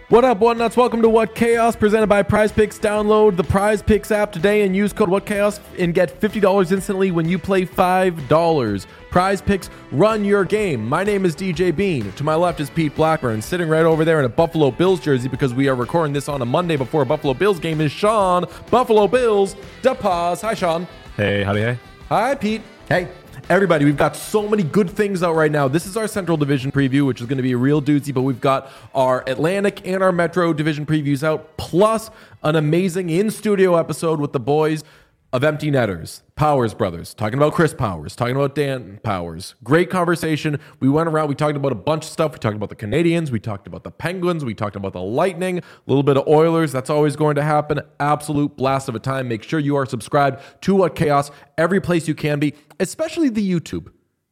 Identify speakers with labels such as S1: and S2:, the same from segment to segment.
S1: What up, What Nuts? Welcome to What Chaos, presented by Prize Picks. Download the Prize Picks app today and use code What Chaos and get $50 instantly when you play $5. Prize Picks, run your game. My name is DJ Bean. To my left is Pete Blackburn. Sitting right over there in a Buffalo Bills jersey because we are recording this on a Monday before a Buffalo Bills game is Sean Buffalo Bills DePaz. Hi, Sean.
S2: Hey, howdy, hey.
S1: Hi, Pete.
S3: Hey.
S1: Everybody, we've got so many good things out right now. This is our Central Division preview, which is going to be a real doozy, but we've got our Atlantic and our Metro Division previews out, plus an amazing in-studio episode with the boys of Empty Netters, Powers Brothers, talking about Chris Powers, talking about Dan Powers. Great conversation. We went around, we talked about a bunch of stuff. We talked about the Canadians, we talked about the Penguins, we talked about the Lightning, a little bit of Oilers. That's always going to happen. Absolute blast of a time. Make sure you are subscribed to What Chaos every place you can be, especially the YouTube.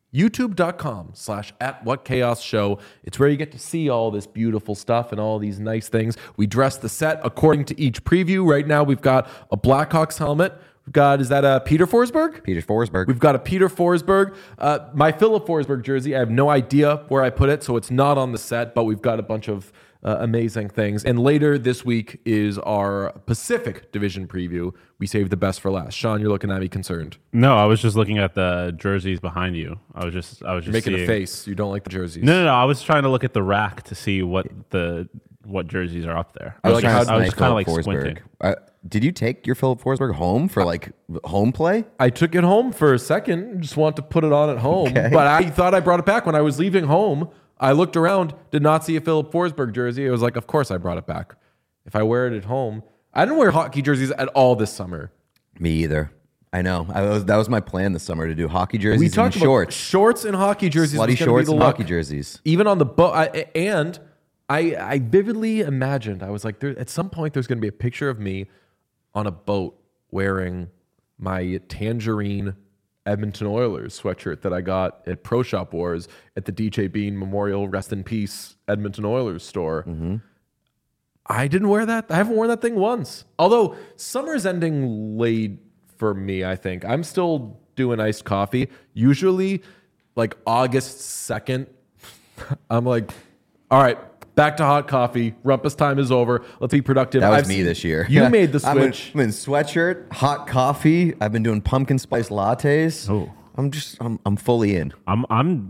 S1: YouTube.com/@WhatChaosShow. It's where you get to see all this beautiful stuff and all these nice things. We dress the set according to each preview. Right now, we've got a Blackhawks helmet. We've got, is that a Peter Forsberg?
S3: Peter Forsberg.
S1: We've got a Peter Forsberg. My Philip Forsberg jersey, I have no idea where I put it, so it's not on the set, but we've got a bunch of amazing things. And later this week is our Pacific Division preview. We saved the best for last. Sean, you're looking at me concerned.
S2: No, I was just looking at the jerseys behind you. I was just
S1: You're making
S2: seeing
S1: a face. You don't like the jerseys.
S2: No. I was trying to look at the rack to see what jerseys are up there. I was
S3: kind
S2: of like squinting.
S3: Did you take your Philip Forsberg home for like home play?
S1: I took it home for a second. Just want to put it on at home. Okay. But I thought I brought it back when I was leaving home. I looked around, did not see a Philip Forsberg jersey. I was like, of course I brought it back. If I wear it at home. I didn't wear hockey jerseys at all this summer.
S3: Me either. I know. That was my plan this summer, to do hockey jerseys
S1: we talked
S3: and shorts.
S1: Shorts and hockey jerseys.
S3: Slutty shorts and hockey jerseys.
S1: Even on the boat. I vividly imagined, I was like, at some point there's going to be a picture of me on a boat wearing my tangerine Edmonton Oilers sweatshirt that I got at Pro Shop Wars at the DJ Bean Memorial Rest in Peace Edmonton Oilers store. Mm-hmm. I didn't wear that. I haven't worn that thing once. Although summer's ending late for me, I think. I'm still doing iced coffee. Usually like August 2nd, I'm like, all right, back to hot coffee. Rumpus time is over. Let's be productive.
S3: That was me this year.
S1: You made the switch.
S3: I'm in sweatshirt, hot coffee. I've been doing pumpkin spice lattes.
S2: Oh,
S3: I'm fully in.
S2: I'm on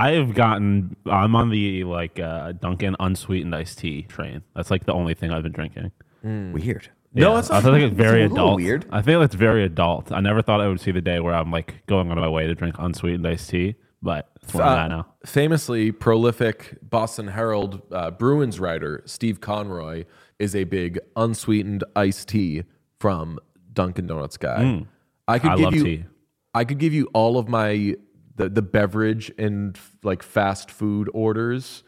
S2: the Dunkin' unsweetened iced tea train. That's like the only thing I've been drinking.
S3: Weird.
S2: Yeah,
S1: no, it's not.
S2: I think it's very adult.
S3: Weird.
S2: I think it's very adult. I never thought I would see the day where I'm like going on my way to drink unsweetened iced tea, but it's where I'm at now.
S1: Famously prolific Boston Herald Bruins writer Steve Conroy is a big unsweetened iced tea from Dunkin' Donuts guy. I love tea. I could give you all of my the beverage and like fast food orders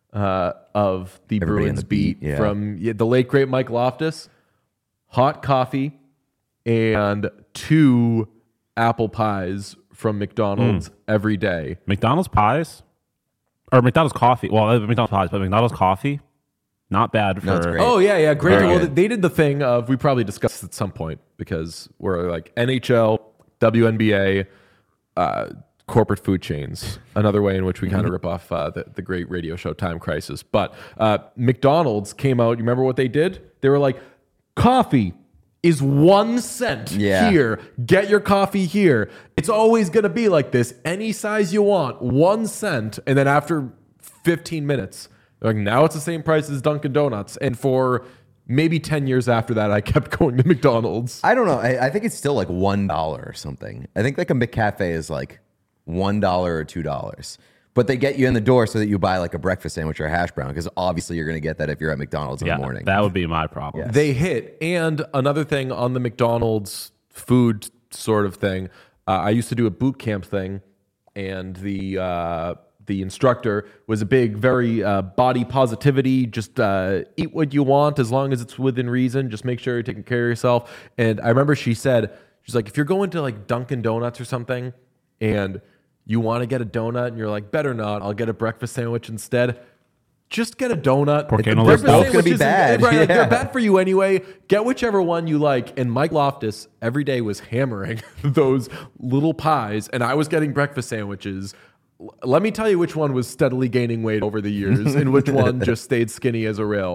S1: of the Bruins beat from the late great Mike Loftus. Hot coffee and 2 apple pies from McDonald's every day.
S2: McDonald's pies? Or McDonald's coffee. Well, McDonald's pies, but McDonald's coffee, not bad for...
S3: No, it's great.
S1: Oh, yeah, great.
S3: Very
S1: well,
S3: good.
S1: they did the thing of, we probably discussed it at some point because we're like NHL, WNBA, corporate food chains, another way in which we kind of rip off the great radio show Time Crisis. But McDonald's came out, you remember what they did? They were like, coffee is 1 cent here. Get your coffee here. It's always going to be like this. Any size you want, 1 cent. And then after 15 minutes, they're like, now it's the same price as Dunkin' Donuts. And for maybe 10 years after that, I kept going to McDonald's.
S3: I don't know. I think it's still like $1 or something. I think like a McCafe is like $1 or $2. But they get you in the door so that you buy like a breakfast sandwich or a hash brown, because obviously you're going to get that if you're at McDonald's in the morning.
S2: That would be my problem.
S3: Yes.
S1: They hit. And another thing on the McDonald's food sort of thing, I used to do a boot camp thing, and the instructor was a big, very body positivity, just eat what you want as long as it's within reason. Just make sure you're taking care of yourself. And I remember she said, she's like, if you're going to like Dunkin' Donuts or something and you want to get a donut and you're like, better not, I'll get a breakfast sandwich instead. Just get a donut.
S2: Porque no
S3: They're both going to be bad.
S1: Right, like, they're bad for you anyway. Get whichever one you like. And Mike Loftus every day was hammering those little pies, and I was getting breakfast sandwiches. Let me tell you which one was steadily gaining weight over the years and which one just stayed skinny as a rail.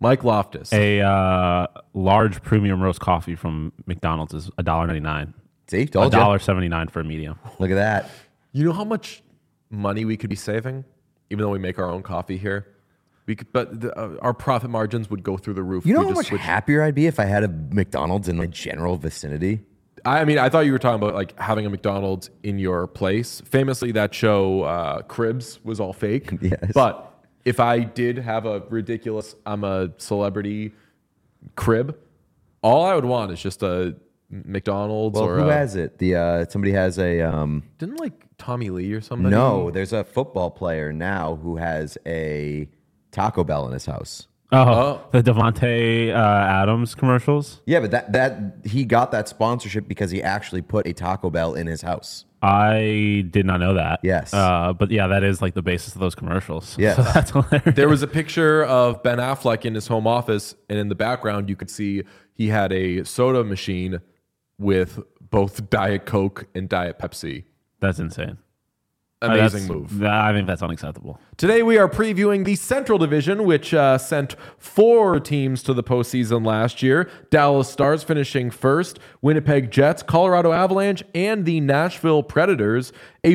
S1: Mike Loftus.
S2: A large premium roast coffee from McDonald's is $1.99.
S3: See, told you.
S2: $1.79 for a medium.
S3: Look at that.
S1: You know how much money we could be saving, even though we make our own coffee here? Our profit margins would go through the roof.
S3: You
S1: if
S3: know
S1: we
S3: how
S1: just
S3: much
S1: switched.
S3: happier I'd be if I had a McDonald's in the general vicinity?
S1: I mean, I thought you were talking about like having a McDonald's in your place. Famously, that show Cribs was all fake.
S3: Yes.
S1: But if I did have a ridiculous, I'm a celebrity crib, all I would want is just a McDonald's.
S3: Well,
S1: or
S3: who has it? Somebody has a.
S1: Didn't like Tommy Lee or somebody?
S3: No, there's a football player now who has a Taco Bell in his house.
S2: The Devontae Adams commercials.
S3: Yeah, but that he got that sponsorship because he actually put a Taco Bell in his house.
S2: I did not know that.
S3: Yes.
S2: But yeah, that is like the basis of those commercials.
S3: Yeah.
S2: So that's hilarious.
S1: There was a picture of Ben Affleck in his home office, and in the background, you could see he had a soda machine with both Diet Coke and Diet Pepsi.
S2: That's insane.
S1: Amazing move.
S2: I think that's unacceptable.
S1: Today we are previewing the Central Division, which sent 4 teams to the postseason last year. Dallas Stars finishing first, Winnipeg Jets, Colorado Avalanche, and the Nashville Predators.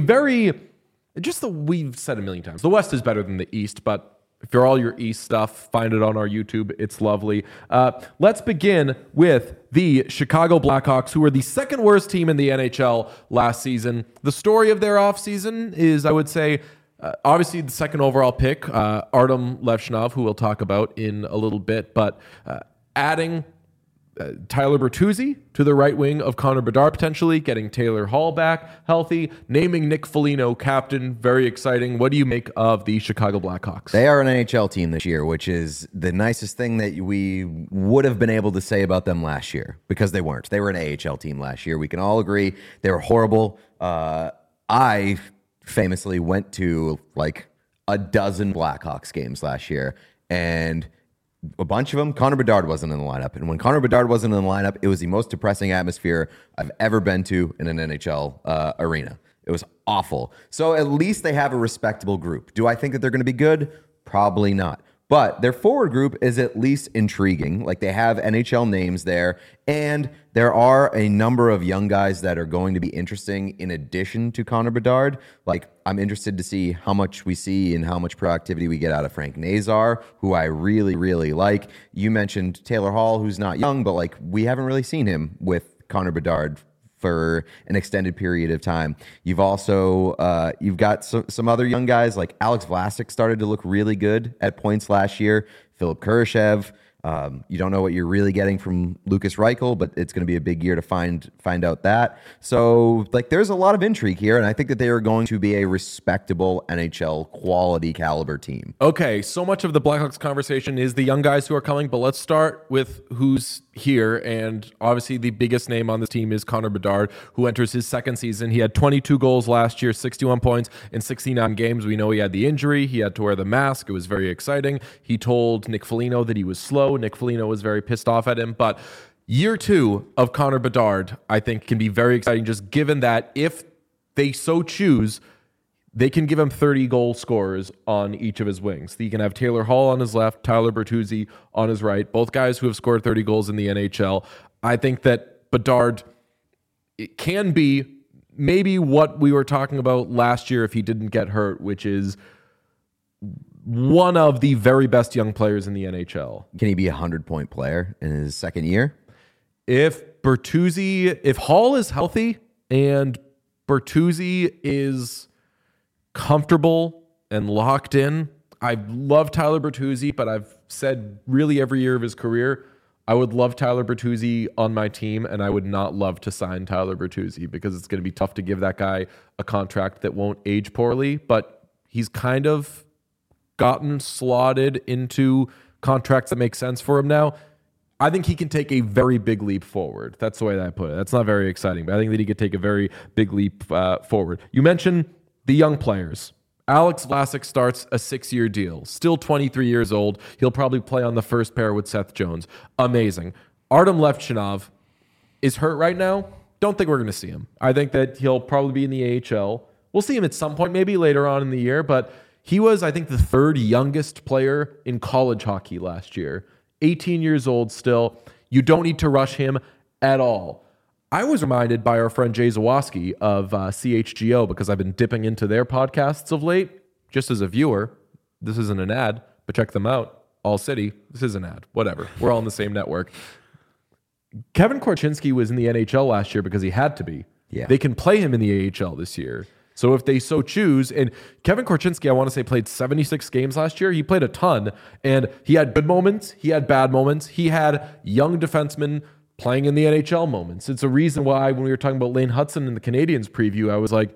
S1: We've said a million times, the West is better than the East, but if you're all your East stuff, find it on our YouTube. It's lovely. Let's begin with the Chicago Blackhawks, who were the second worst team in the NHL last season. The story of their offseason is, I would say, obviously the second overall pick, Artem Levchinov, who we'll talk about in a little bit, but adding Tyler Bertuzzi to the right wing of Connor Bedard, potentially getting Taylor Hall back healthy, naming Nick Foligno captain. Very exciting. What do you make of the Chicago Blackhawks?
S3: They are an NHL team this year, which is the nicest thing that we would have been able to say about them last year, because they weren't. They were an AHL team last year. We can all agree they were horrible. I famously went to like a dozen Blackhawks games last year, and a bunch of them, Connor Bedard wasn't in the lineup. And when Connor Bedard wasn't in the lineup, it was the most depressing atmosphere I've ever been to in an NHL arena. It was awful. So at least they have a respectable group. Do I think that they're going to be good? Probably not. But their forward group is at least intriguing. Like, they have NHL names there, and there are a number of young guys that are going to be interesting in addition to Connor Bedard. Like, I'm interested to see how much we see and how much productivity we get out of Frank Nazar, who I really, really like. You mentioned Taylor Hall, who's not young, but like, we haven't really seen him with Connor Bedard for an extended period of time. You've also you've got some other young guys, like Alex Vlasic started to look really good at points last year. Philip Kurashev. You don't know what you're really getting from Lucas Reichel, but it's going to be a big year to find out that. So, like, there's a lot of intrigue here, and I think that they are going to be a respectable NHL quality caliber team.
S1: Okay, so much of the Blackhawks conversation is the young guys who are coming, but let's start with who's here. And obviously the biggest name on this team is Connor Bedard, who enters his second season. He had 22 goals last year, 61 points in 69 games. We know he had the injury. He had to wear the mask. It was very exciting. He told Nick Foligno that he was slow. Nick Foligno was very pissed off at him. But year 2 of Connor Bedard, I think, can be very exciting, just given that if they so choose, they can give him 30 goal scorers on each of his wings. You can have Taylor Hall on his left, Tyler Bertuzzi on his right, both guys who have scored 30 goals in the NHL. I think that Bedard, it can be maybe what we were talking about last year if he didn't get hurt, which is one of the very best young players in the NHL.
S3: Can he be a 100-point player in his second year?
S1: If Hall is healthy and Bertuzzi is comfortable and locked in. I love Tyler Bertuzzi, but I've said really every year of his career, I would love Tyler Bertuzzi on my team, and I would not love to sign Tyler Bertuzzi because it's going to be tough to give that guy a contract that won't age poorly, but he's kind of gotten slotted into contracts that make sense for him now. I think he can take a very big leap forward. That's the way that I put it. That's not very exciting, but I think that he could take a very big leap forward. You mentioned the young players. Alex Vlasic starts a 6-year deal. Still 23 years old. He'll probably play on the first pair with Seth Jones. Amazing. Artem Levchinov is hurt right now. Don't think we're going to see him. I think that he'll probably be in the AHL. We'll see him at some point, maybe later on in the year, but he was, I think, the 3rd youngest player in college hockey last year. 18 years old still. You don't need to rush him at all. I was reminded by our friend Jay Zawoski of CHGO because I've been dipping into their podcasts of late. Just as a viewer, this isn't an ad, but check them out. All City. This is an ad. Whatever. We're all in the same network. Kevin Korchinski was in the NHL last year because he had to be.
S3: Yeah.
S1: They can play him in the AHL this year. So if they so choose, and Kevin Korchinski, I want to say, played 76 games last year. He played a ton, and he had good moments. He had bad moments. He had young defensemen playing in the NHL moments. It's a reason why when we were talking about Lane Hudson in the Canadiens preview, I was like,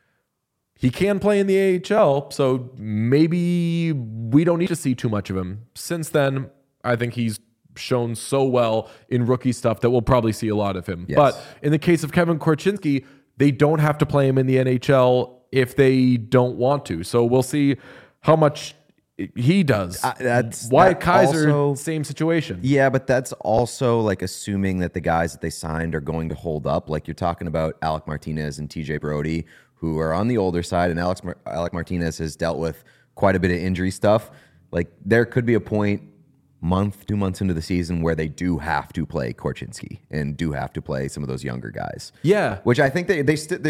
S1: he can play in the AHL, so maybe we don't need to see too much of him. Since then, I think he's shown so well in rookie stuff that we'll probably see a lot of him.
S3: Yes.
S1: But in the case of Kevin Korchinski, they don't have to play him in the NHL if they don't want to. So we'll see how much he does. Wyatt Kaiser,
S3: also,
S1: same situation.
S3: Yeah, but that's also like assuming that the guys that they signed are going to hold up. Like you're talking about Alec Martinez and TJ Brody, who are on the older side, and Alec Martinez has dealt with quite a bit of injury stuff. Like there could be a point, month, 2 months into the season, where they do have to play Korchinski and do have to play some of those younger guys.
S1: Yeah,
S3: which I think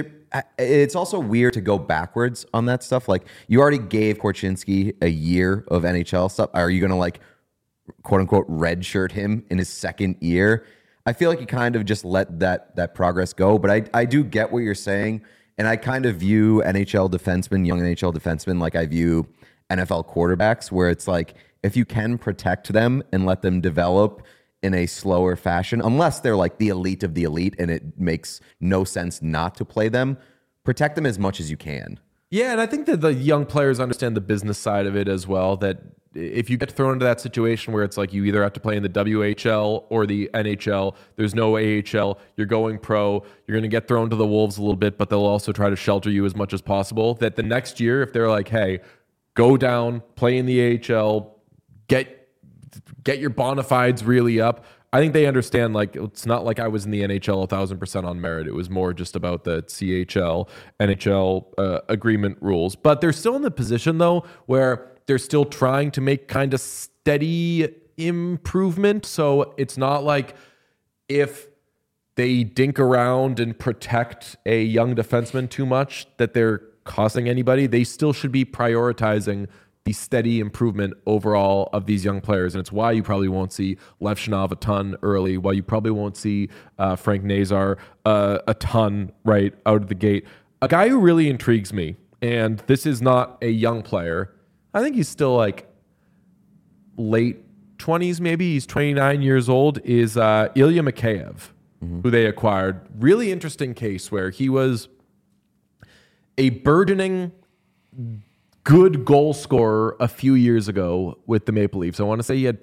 S3: it's also weird to go backwards on that stuff. Like you already gave Korchinski a year of NHL stuff. Are you going to like quote unquote redshirt him in his second year? I feel like you kind of just let that progress go. But I do get what you're saying. And I kind of view NHL defensemen, young NHL defensemen, like I view NFL quarterbacks, where it's like, if you can protect them and let them develop in a slower fashion, unless they're like the elite of the elite and it makes no sense not to play them, protect them as much as you can.
S1: Yeah, and I think that the young players understand the business side of it as well, that if you get thrown into that situation where it's like you either have to play in the WHL or the NHL, there's no AHL, you're going pro, you're going to get thrown to the wolves a little bit, but they'll also try to shelter you as much as possible, that the next year, if they're like, hey, go down, play in the AHL, get your bona fides really up. I think they understand, like, it's not like I was in the NHL 1,000% on merit. It was more just about the CHL, NHL agreement rules. But they're still in the position, though, where they're still trying to make kind of steady improvement. So it's not like if they dink around and protect a young defenseman too much that they're costing anybody. They still should be prioritizing the steady improvement overall of these young players. And it's why you probably won't see Lev Shinov a ton early, why you probably won't see Frank Nazar a ton right out of the gate. A guy who really intrigues me, and this is not a young player, I think he's still like late 20s maybe, he's 29 years old, is Ilya Mikheyev, who they acquired. Really interesting case where he was a burgeoning good goal scorer a few years ago with the Maple Leafs. I want to say he had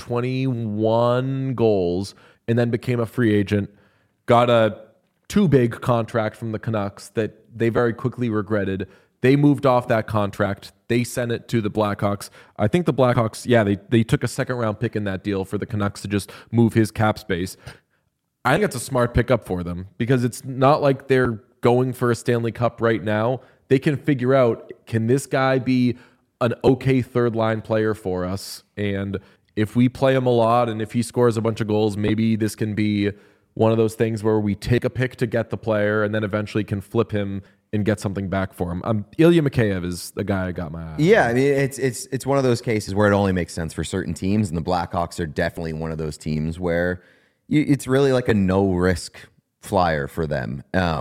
S1: 21 goals and then became a free agent, got a too big contract from the Canucks that they very quickly regretted. They moved off that contract. They sent it to the Blackhawks. I think the Blackhawks, they took a second round pick in that deal for the Canucks to just move his cap space. I think it's a smart pickup for them because it's not like they're going for a Stanley Cup right now. They can figure out, can this guy be an okay third line player for us? And if we play him a lot and if he scores a bunch of goals, maybe this can be one of those things where we take a pick to get the player and then eventually can flip him and get something back for him. Ilya Mikheyev is the guy I got my eye on.
S3: Yeah, I mean, it's one of those cases where it only makes sense for certain teams, and the Blackhawks are definitely one of those teams where it's really like a no-risk flyer for them.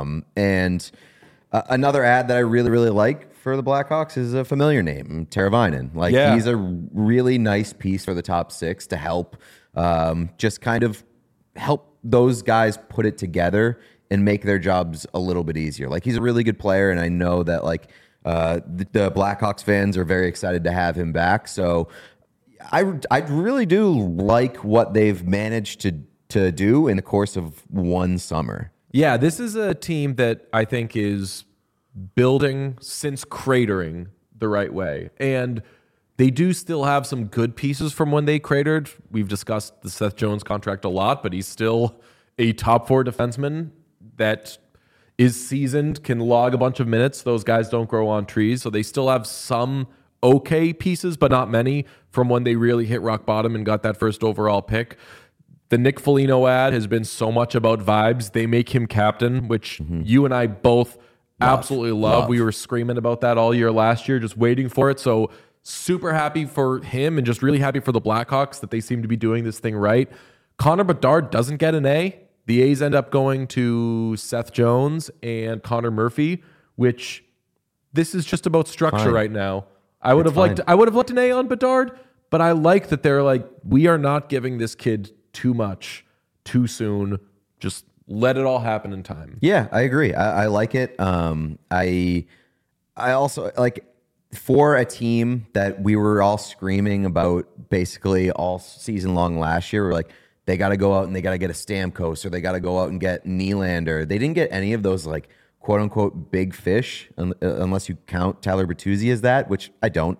S3: Another ad that I really, really like for the Blackhawks is a familiar name, Teravainen. He's a really nice piece for the top six to help just kind of help those guys put it together and make their jobs a little bit easier. Like, he's a really good player, and I know that the Blackhawks fans are very excited to have him back. So I really do like what they've managed to do in the course of one summer.
S1: Yeah, this is a team that I think is building since cratering the right way. And they do still have some good pieces from when they cratered. We've discussed the Seth Jones contract a lot, but he's still a top four defenseman that is seasoned, can log a bunch of minutes. Those guys don't grow on trees, so they still have some okay pieces, but not many from when they really hit rock bottom and got that first overall pick. The Nick Foligno ad has been so much about vibes. They make him captain, which you and I both absolutely love. We were screaming about that all year last year, just waiting for it. So super happy for him and just really happy for the Blackhawks that they seem to be doing this thing right. Connor Bedard doesn't get an A. The A's end up going to Seth Jones and Connor Murphy, which this is just about structure right now. I would have liked an A on Bedard, but I like that they're like, we are not giving this kid too much too soon. Just let it all happen in time.
S3: Yeah, I agree. I like it. I also like, for a team that we were all screaming about basically all season long last year, we're like, they got to go out and they got to get a Stamkos, or they got to go out and get Nylander. They didn't get any of those like quote unquote big fish, unless you count Tyler Bertuzzi as that, which I don't.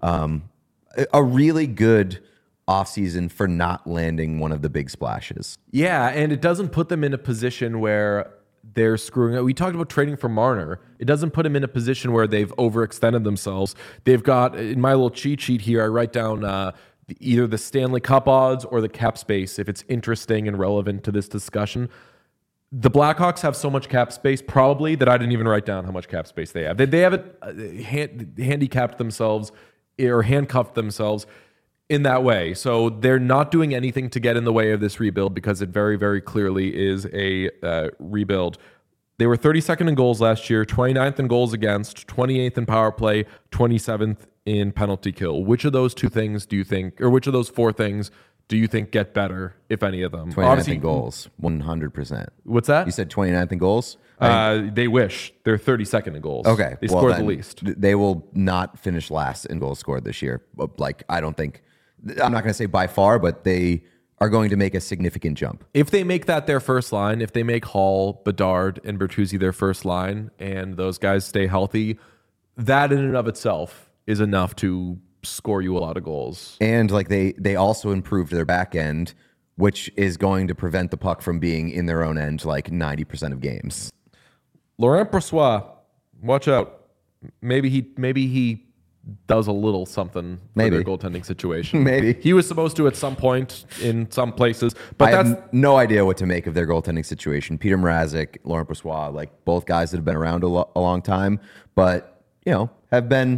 S3: A really good offseason for not landing one of the big splashes.
S1: Yeah, and it doesn't put them in a position where they're screwing up. We talked about trading for Marner. It doesn't put them in a position where they've overextended themselves. They've got, in my little cheat sheet here, I write down either the Stanley Cup odds or the cap space, if it's interesting and relevant to this discussion. The Blackhawks have so much cap space, probably, that I didn't even write down how much cap space they have. They have it handicapped themselves or handcuffed themselves in that way. So they're not doing anything to get in the way of this rebuild, because it very, very clearly is a rebuild. They were 32nd in goals last year, 29th in goals against, 28th in power play, 27th in penalty kill. Which of those two things do you think, or which of those four things do you think get better, if any of them?
S3: 29th in goals, 100%.
S1: What's that?
S3: You said 29th in goals?
S1: They wish. They're 32nd in goals.
S3: Okay.
S1: They scored the least.
S3: They will not finish last in goals scored this year. Like, I don't think, I'm not going to say by far, but they are going to make a significant jump.
S1: If they make that their first line, if they make Hall, Bedard, and Bertuzzi their first line, and those guys stay healthy, that in and of itself is enough to score you a lot of goals.
S3: And like they also improved their back end, which is going to prevent the puck from being in their own end like 90% of games.
S1: Laurent Brossoit, watch out. Maybe he does a little something for their goaltending situation.
S3: Maybe.
S1: He was supposed to at some point in some places, but
S3: I have no idea what to make of their goaltending situation. Peter Mrazek, Laurent Brossoit, like both guys that have been around a long time, but have been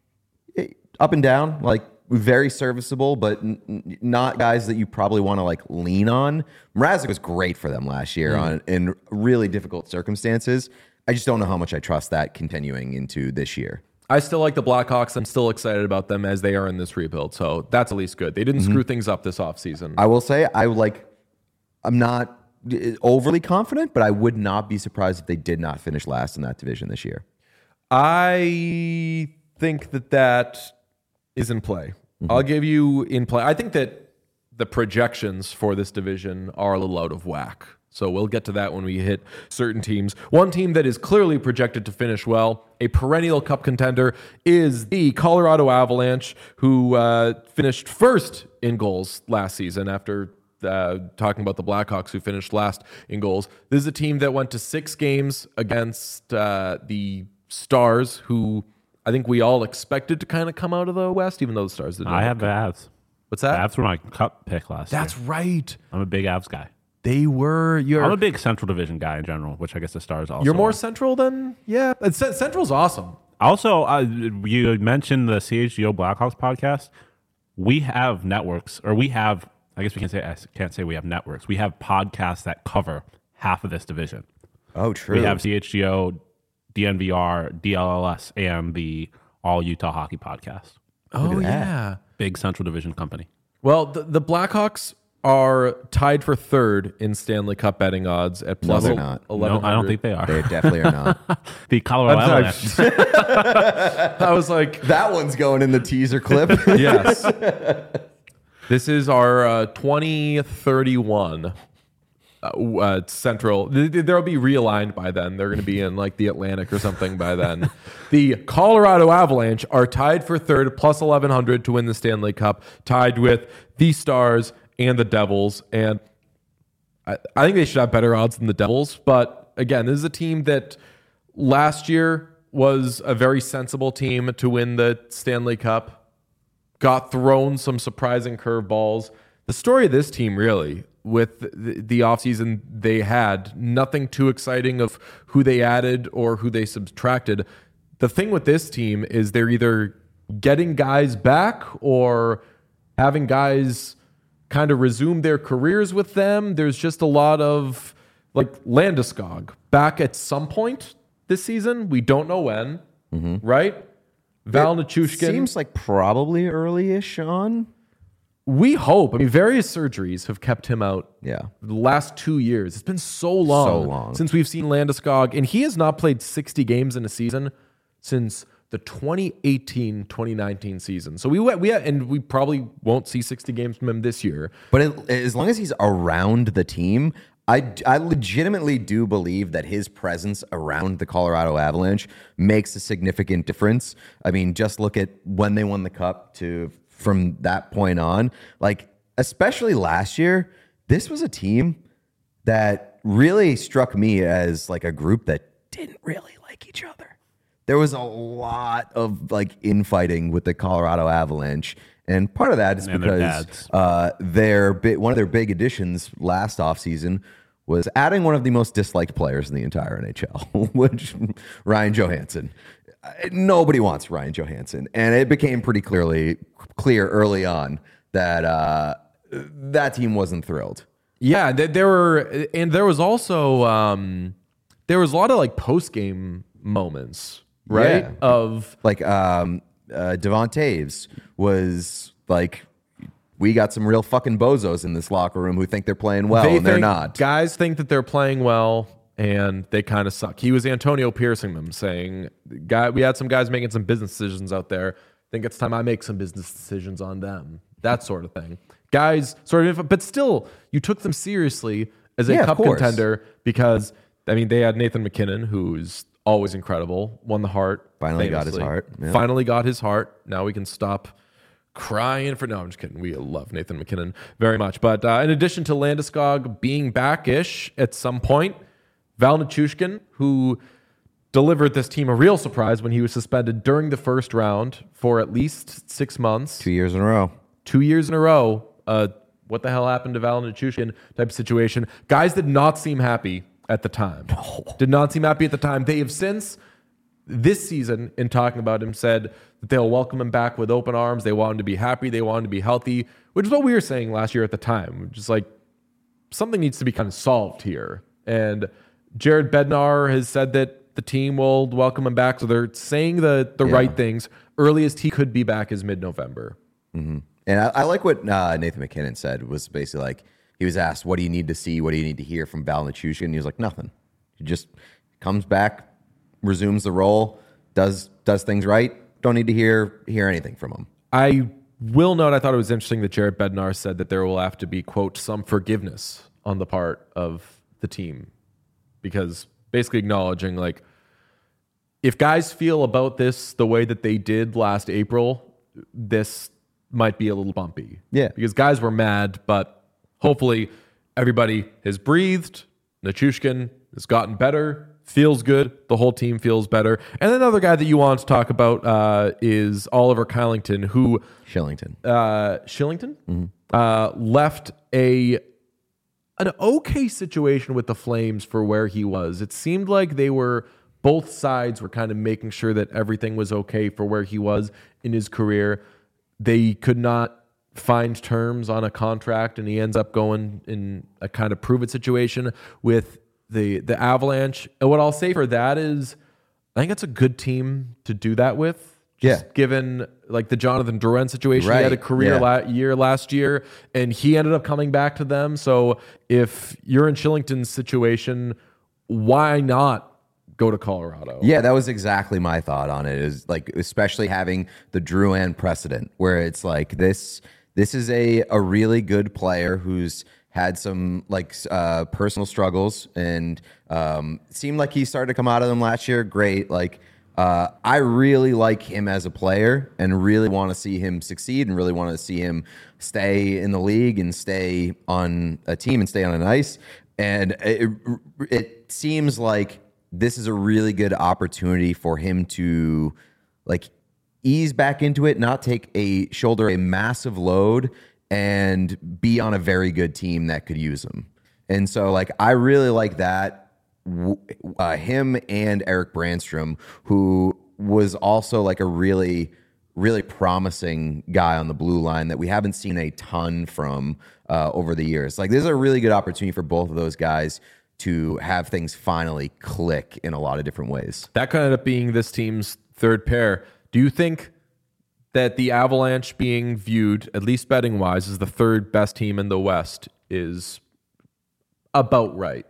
S3: up and down, like very serviceable, but not guys that you probably want to like lean on. Mrazek was great for them last year in really difficult circumstances. I just don't know how much I trust that continuing into this year.
S1: I still like the Blackhawks. I'm still excited about them as they are in this rebuild. So that's at least good. They didn't screw things up this offseason.
S3: I will say I'm not overly confident, but I would not be surprised if they did not finish last in that division this year.
S1: I think that is in play. I'll give you in play. I think that the projections for this division are a little out of whack. So we'll get to that when we hit certain teams. One team that is clearly projected to finish well, a perennial cup contender, is the Colorado Avalanche, who finished first in goals last season after talking about the Blackhawks, who finished last in goals. This is a team that went to 6 games against the Stars, who I think we all expected to kind of come out of the West, even though the Stars didn't.
S2: I have the Avs.
S1: What's that?
S2: Avs were my cup pick last year.
S1: That's right.
S2: I'm a big Avs guy.
S1: They were.
S2: I'm a big Central Division guy in general, which I guess the Stars also.
S1: You're more
S2: are.
S1: Central than Central's awesome.
S2: Also, you mentioned the CHGO Blackhawks podcast. We have networks, or we have. I guess we can't say we have networks. We have podcasts that cover half of this division.
S3: Oh, true.
S2: We have CHGO, DNVR, DLLS, and the All Utah Hockey podcast.
S1: Oh yeah,
S2: big Central Division company.
S1: Well, the Blackhawks are tied for third in Stanley Cup betting odds at plus 1100.
S2: No, I don't think they are.
S3: They definitely are not.
S2: The Colorado Avalanche.
S1: I was like,
S3: that one's going in the teaser clip.
S1: Yes. This is our 2031 Central. They'll be realigned by then. They're going to be in like the Atlantic or something by then. The Colorado Avalanche are tied for third, plus 1100 to win the Stanley Cup, tied with the Stars and the Devils. And I think they should have better odds than the Devils. But again, this is a team that last year was a very sensible team to win the Stanley Cup. Got thrown some surprising curveballs. The story of this team, really, with the offseason they had, nothing too exciting of who they added or who they subtracted. The thing with this team is they're either getting guys back or having guys kind of resume their careers with them. There's just a lot of, like, Landeskog back at some point this season. We don't know when, right? Val Nichushkin.
S3: Seems like probably early-ish on.
S1: We hope. I mean, various surgeries have kept him out.
S3: Yeah.
S1: The last 2 years. It's been so long since we've seen Landeskog, and he has not played 60 games in a season since the 2018-2019 season. So we probably won't see 60 games from him this year.
S3: But as long as he's around the team, I legitimately do believe that his presence around the Colorado Avalanche makes a significant difference. I mean, just look at when they won the Cup from that point on. Like, especially last year, this was a team that really struck me as like a group that didn't really like each other. There was a lot of like infighting with the Colorado Avalanche. And part of that is because one of their big additions last offseason was adding one of the most disliked players in the entire NHL, which Ryan Johansson. Nobody wants Ryan Johansson. And it became pretty clear early on that that team wasn't thrilled.
S1: Yeah, there was also there was a lot of like post-game moments, right?
S3: Yeah.
S1: Of
S3: like Devon Taves was like, we got some real fucking bozos in this locker room who think they're playing well, and they're not.
S1: Guys think that they're playing well, and they kind of suck. He was Antonio Piercing them, saying, we had some guys making some business decisions out there. I think it's time I make some business decisions on them. That sort of thing. Guys, but still, you took them seriously as a cup contender because, I mean, they had Nathan McKinnon, who's always incredible, won the Hart.
S3: Finally got his Hart.
S1: Yeah. Finally got his Hart. Now we can stop crying for... No, I'm just kidding. We love Nathan McKinnon very much. But in addition to Landeskog being back-ish at some point, Val Nichushkin, who delivered this team a real surprise when he was suspended during the first round for at least 6 months.
S3: 2 years in a row.
S1: 2 years in a row. What the hell happened to Val Nichushkin type of situation? Guys did not seem happy at the time. No. Did not seem happy at the time. They have since, this season, in talking about him, said that they'll welcome him back with open arms. They want him to be happy. They want him to be healthy, which is what we were saying last year at the time. Just like, something needs to be kind of solved here. And Jared Bednar has said that the team will welcome him back. So they're saying the right things. Earliest he could be back is mid-November.
S3: Mm-hmm. And I like what Nathan McKinnon said, was basically like, he was asked, what do you need to see? What do you need to hear from Val Nichushkin? And he was like, nothing. He just comes back, resumes the role, does things right. Don't need to hear anything from him.
S1: I will note, I thought it was interesting that Jared Bednar said that there will have to be, quote, some forgiveness on the part of the team. Because basically acknowledging, like, if guys feel about this the way that they did last April, this might be a little bumpy.
S3: Yeah.
S1: Because guys were mad, but hopefully everybody has breathed. Nichushkin has gotten better, feels good. The whole team feels better. And another guy that you want to talk about is Oliver Kylington, who...
S3: Shillington.
S1: Left an okay situation with the Flames for where he was. It seemed like both sides were kind of making sure that everything was okay for where he was in his career. They could not find terms on a contract, and he ends up going in a kind of prove-it situation with the Avalanche. And what I'll say for that is, I think it's a good team to do that with. Given like the Jonathan Drouin situation, he had a career year last year, and he ended up coming back to them. So if you're in Shillington's situation, why not go to Colorado?
S3: Yeah, that was exactly my thought on it. Is like, especially having the Drouin precedent, where it's like this is a really good player who's had some like personal struggles, and seemed like he started to come out of them last year. Great, like. I really like him as a player and really want to see him succeed and really want to see him stay in the league and stay on a team and stay on an ice. And it seems like this is a really good opportunity for him to like ease back into it, not shoulder a massive load, and be on a very good team that could use him. And so, like, I really like that. Him and Eric Brandstrom, who was also like a really, really promising guy on the blue line that we haven't seen a ton from over the years. Like, this is a really good opportunity for both of those guys to have things finally click in a lot of different ways.
S1: That could end up being this team's third pair. Do you think that the Avalanche being viewed, at least betting wise, as the third best team in the West is about right?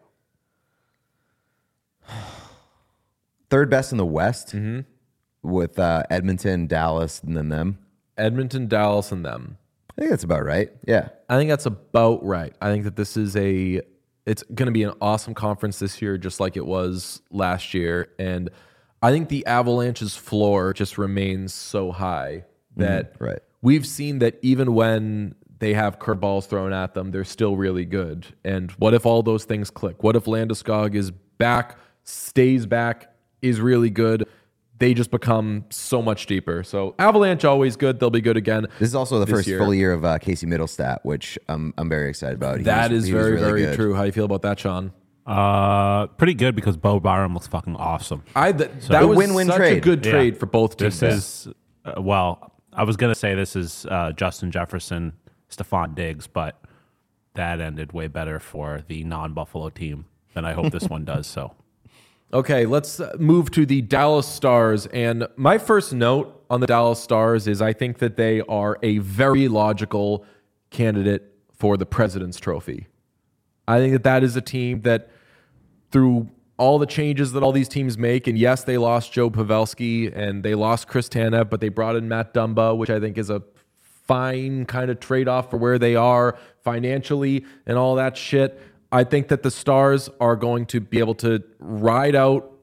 S3: Third best in the West with Edmonton, Dallas, and then them.
S1: Edmonton, Dallas, and them.
S3: I think that's about right. Yeah.
S1: I think that's about right. I think that this is it's going to be an awesome conference this year, just like it was last year. And I think the Avalanche's floor just remains so high that
S3: right.
S1: We've seen that even when they have curveballs thrown at them, they're still really good. And what if all those things click? What if Landeskog is back, stays back, is really good? They just become so much deeper. So Avalanche always good. They'll be good again.
S3: This is also the first
S1: year.
S3: full year of Casey Middlestat, which I'm very excited about.
S1: That is very,
S3: really
S1: very
S3: good.
S1: true. How do you feel about that, Sean?
S2: Pretty good because Bo Byram looks fucking awesome.
S1: That was
S3: win-win
S1: such
S3: trade.
S1: a good trade for both teams.
S2: This is I was gonna say this is Justin Jefferson, Stephon Diggs, but that ended way better for the non-Buffalo team than I hope this one does. So,
S1: okay, let's move to the Dallas Stars. And my first note on the Dallas Stars is I think that they are a very logical candidate for the President's Trophy. I think that is a team that, through all the changes that all these teams make, and yes, they lost Joe Pavelski and they lost Chris Tanev, but they brought in Matt Dumba, which I think is a fine kind of trade-off for where they are financially and all that shit. I think that the Stars are going to be able to ride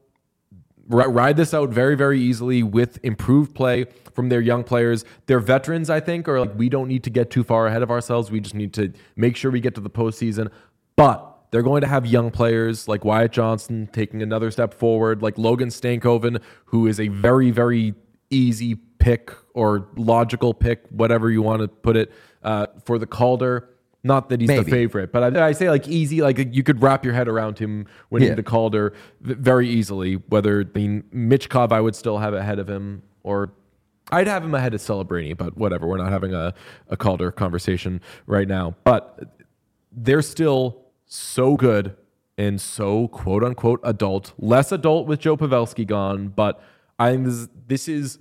S1: this out very, very easily with improved play from their young players. Their veterans, I think, are like, we don't need to get too far ahead of ourselves. We just need to make sure we get to the postseason. But they're going to have young players like Wyatt Johnston taking another step forward, like Logan Stankoven, who is a very, very easy pick or logical pick, whatever you want to put it, for the Calder. Not that he's the favorite, but I say like easy, like you could wrap your head around him winning the Calder very easily. Whether Michkov, I would still have ahead of him, or I'd have him ahead of Celebrini, but whatever. We're not having a Calder conversation right now. But they're still so good and so quote unquote adult, less adult with Joe Pavelski gone. But I think this is,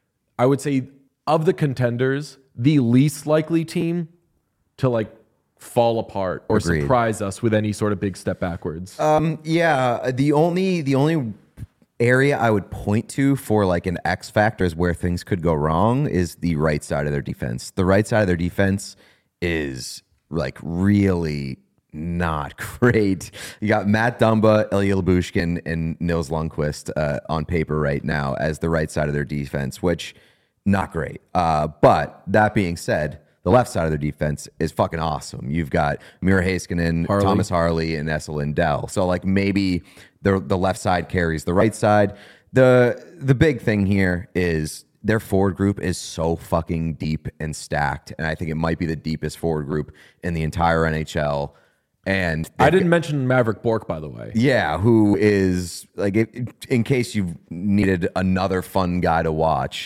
S1: I would say, of the contenders, the least likely team to like fall apart or
S3: Agreed.
S1: surprise us with any sort of big step backwards.
S3: Yeah, the only area I would point to for like an X factor is where things could go wrong is the right side of their defense. The right side of their defense is like really not great. You got Matt Dumba, Ilya Lyubushkin, and Nils Lundqvist on paper right now as the right side of their defense, which not great. But that being said, the left side of their defense is fucking awesome. You've got Mira Heiskanen, Thomas Harley, and Esa Lindell. So like maybe the left side carries the right side. The big thing here is their forward group is so fucking deep and stacked, and I think it might be the deepest forward group in the entire NHL. And
S1: I didn't mention Maverick Bourque, by the way.
S3: Yeah, who is like, in case you've needed another fun guy to watch,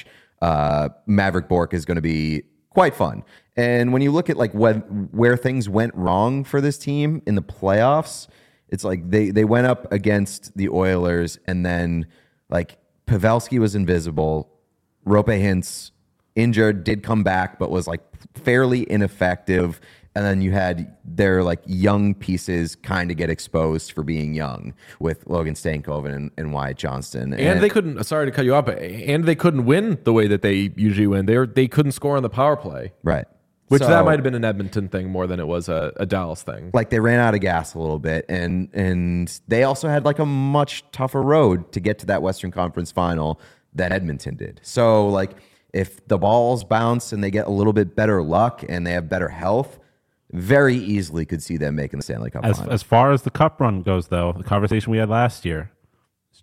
S3: Maverick Bourque is going to be quite fun. And when you look at like where things went wrong for this team in the playoffs, it's like they went up against the Oilers, and then like Pavelski was invisible. Roope Hintz injured, did come back, but was like fairly ineffective. And then you had their like young pieces kind of get exposed for being young with Logan Stankoven and Wyatt Johnston.
S1: And they couldn't, sorry to cut you off, and they couldn't win the way that they usually win. They couldn't score on the power play.
S3: Right.
S1: Which
S3: So,
S1: that might have been an Edmonton thing more than it was a Dallas thing.
S3: like they ran out of gas a little bit, and they also had like a much tougher road to get to that Western Conference final than Edmonton did. So like if the balls bounce and they get a little bit better luck and they have better health, very easily could see them making the Stanley Cup final.
S2: As far as the cup run goes, though, the conversation we had last year,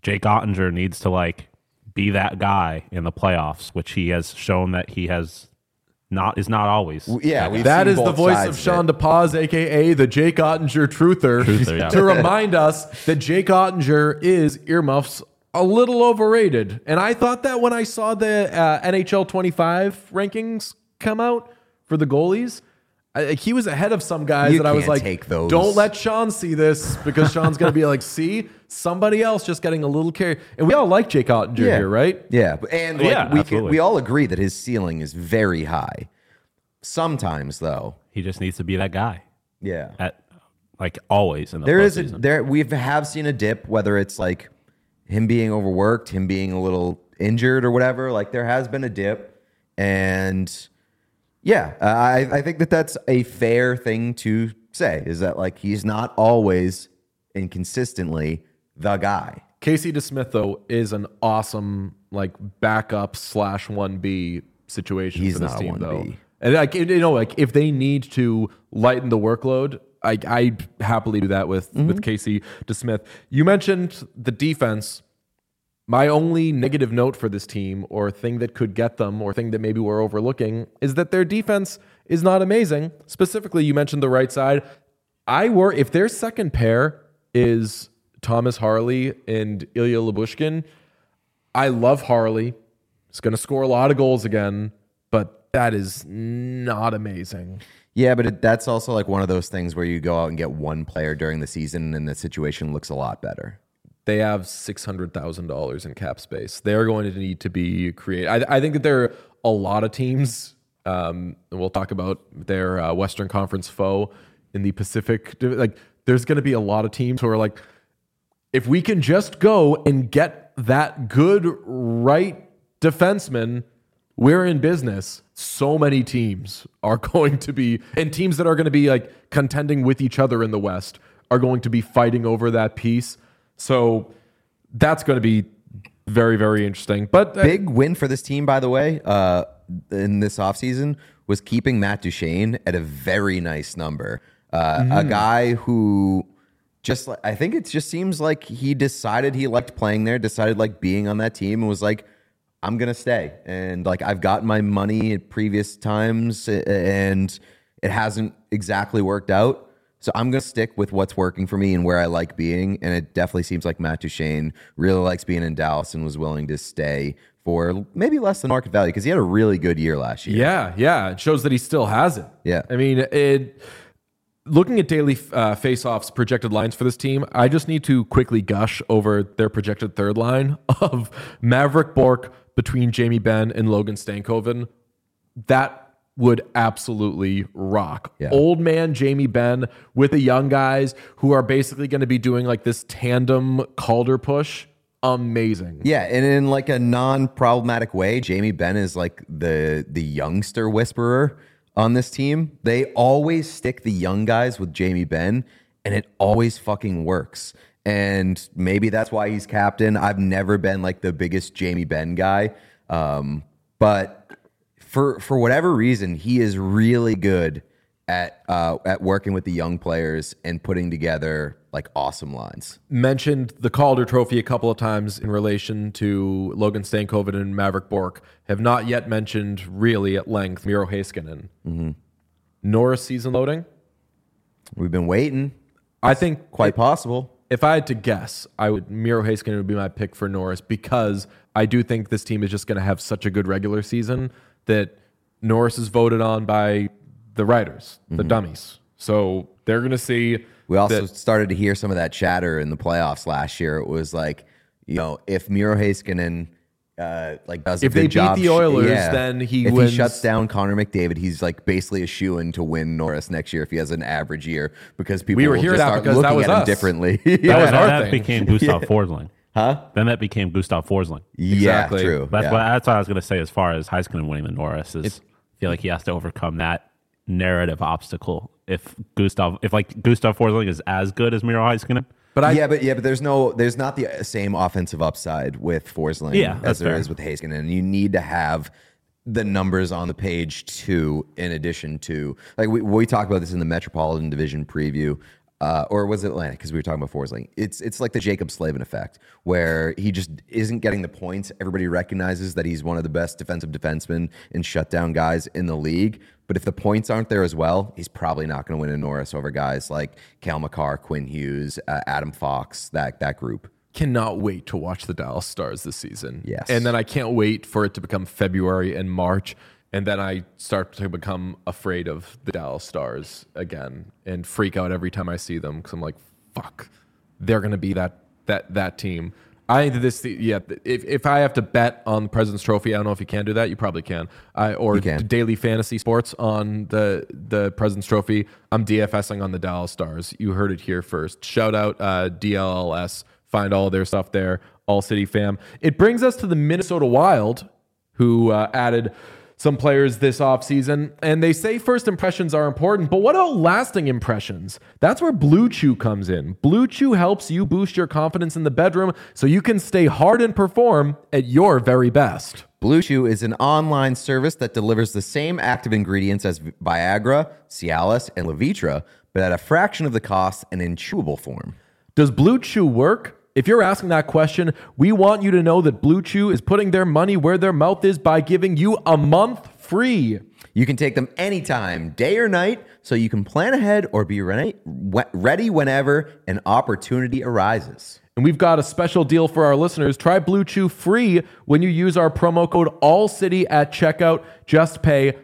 S2: Jake Ottinger needs to like be that guy in the playoffs, which he has shown that he is not always.
S3: Yeah,
S1: that is the voice of Sean DePaz, aka the Jake Ottinger truther,
S2: yeah.
S1: to remind us that Jake Ottinger is earmuffs a little overrated. And I thought that when I saw the NHL 25 rankings come out for the goalies. He was ahead of some guys that I was like,
S3: take those.
S1: Don't let Sean see this, because Sean's going to be like, see, somebody else just getting a little carried. And we all like Jake Ottinger here, right?
S3: Yeah, and like,
S2: absolutely.
S3: we all agree that his ceiling is very high. Sometimes, though,
S2: He just needs to be that guy.
S3: yeah,
S2: At like always in the
S3: there we have seen a dip, whether it's like him being overworked, him being a little injured or whatever. Like there has been a dip, and yeah, I think that that's a fair thing to say, is that like he's not always and consistently the guy.
S1: Casey DeSmith, though, is an awesome like backup / 1B situation
S3: He's
S1: for this
S3: not a
S1: team,
S3: 1B.
S1: though. And like, you know, like if they need to lighten the workload, I'd happily do that with Casey DeSmith. You mentioned the defense. My only negative note for this team, or thing that could get them, or thing that maybe we're overlooking, is that their defense is not amazing. Specifically, you mentioned the right side. If their second pair is Thomas Harley and Ilya Lyubushkin, I love Harley. He's going to score a lot of goals again, but that is not amazing.
S3: Yeah, but that's also like one of those things where you go out and get one player during the season and the situation looks a lot better.
S1: They have $600,000 in cap space. They're going to need to be creative. I think that there are a lot of teams, and we'll talk about their Western Conference foe in the Pacific. Like, there's going to be a lot of teams who are like, if we can just go and get that good right defenseman, we're in business. So many teams are going to be, and teams that are going to be like contending with each other in the West are going to be fighting over that piece. So that's going to be very, very interesting. But
S3: big win for this team, by the way, in this offseason was keeping Matt Duchene at a very nice number. A guy who just, I think it just seems like he decided he liked playing there, decided like being on that team, and was like, I'm going to stay. And like, I've gotten my money at previous times and it hasn't exactly worked out. So I'm going to stick with what's working for me and where I like being. And it definitely seems like Matt Duchene really likes being in Dallas and was willing to stay for maybe less than market value, because he had a really good year last year.
S1: Yeah. It shows that he still has it.
S3: Yeah.
S1: I mean, looking at daily face-offs projected lines for this team, I just need to quickly gush over their projected third line of Maverick Bourque between Jamie Benn and Logan Stankoven. That would absolutely rock.
S3: Yeah.
S1: Old man Jamie Benn with the young guys who are basically going to be doing like this tandem Calder push. Amazing.
S3: Yeah, and in like a non-problematic way, Jamie Benn is like the youngster whisperer on this team. They always stick the young guys with Jamie Benn, and it always fucking works. And maybe that's why he's captain. I've never been like the biggest Jamie Benn guy, but for whatever reason, he is really good at working with the young players and putting together like awesome lines.
S1: Mentioned the Calder Trophy a couple of times in relation to Logan Stankoven and Maverick Bourque. Have not yet mentioned really at length Miro Heiskanen. Norris season loading.
S3: We've been waiting.
S1: I think
S3: Quite possible.
S1: if I had to guess, Miro Heiskanen would be my pick for Norris, because I do think this team is just going to have such a good regular season that Norris is voted on by the writers, the dummies. So they're going to see.
S3: We also started to hear some of that chatter in the playoffs last year. It was like, you know, if Miro Heiskanen does a
S1: if they
S3: good job,
S1: beat the Oilers, then
S3: if
S1: wins.
S3: he shuts down Connor McDavid, he's like basically a shoo-in to win Norris next year if he has an average year, because people
S1: We were
S3: will
S1: here
S3: just
S1: that
S3: start
S1: because that
S3: looking
S1: was
S3: at him
S1: us.
S3: differently.
S2: That
S1: thing.
S2: became Gustav Forsling.
S3: Huh?
S2: Then that became Gustav Forsling.
S1: Exactly.
S3: Yeah, true.
S2: That's
S3: Yeah.
S2: what I was going to say as far as Heiskanen winning the Norris is. I feel like he has to overcome that narrative obstacle. If Gustav Forsling is as good as Miro Heiskanen,
S1: But
S3: but there's not the same offensive upside with Forsling
S2: Yeah,
S3: as
S2: that's
S3: there
S2: fair.
S3: is with Heiskanen. And you need to have the numbers on the page too, in addition to, like we talked about this in the Metropolitan Division preview. or was it Atlantic? Because we were talking before. It's like it's like the Jacob Slavin effect, where he just isn't getting the points. Everybody recognizes that he's one of the best defensive defensemen and shutdown guys in the league. But if the points aren't there as well, he's probably not going to win a Norris over guys like Cale Makar, Quinn Hughes, Adam Fox, that group.
S1: Cannot wait to watch the Dallas Stars this season.
S3: Yes.
S1: And then I can't wait for it to become February and March. And then I start to become afraid of the Dallas Stars again and freak out every time I see them because I'm like, fuck, they're going to be that team. I think if I have to bet on the President's Trophy, I don't know if you can do that. You probably can. Or
S3: You can.
S1: Daily Fantasy Sports on the President's Trophy. I'm DFSing on the Dallas Stars. You heard it here first. Shout out DLLS. Find all their stuff there. All City fam. It brings us to the Minnesota Wild, who added some players this offseason, and they say first impressions are important, but what about lasting impressions? That's where Blue Chew comes in. Blue Chew helps you boost your confidence in the bedroom so you can stay hard and perform at your very best.
S3: Blue Chew is an online service that delivers the same active ingredients as Viagra, Cialis, and Levitra, but at a fraction of the cost and in chewable form.
S1: Does Blue Chew work? If you're asking that question, we want you to know that Blue Chew is putting their money where their mouth is by giving you a month free.
S3: You can take them anytime, day or night, so you can plan ahead or be ready whenever an opportunity arises.
S1: And we've got a special deal for our listeners. Try Blue Chew free when you use our promo code ALLCITY at checkout. Just pay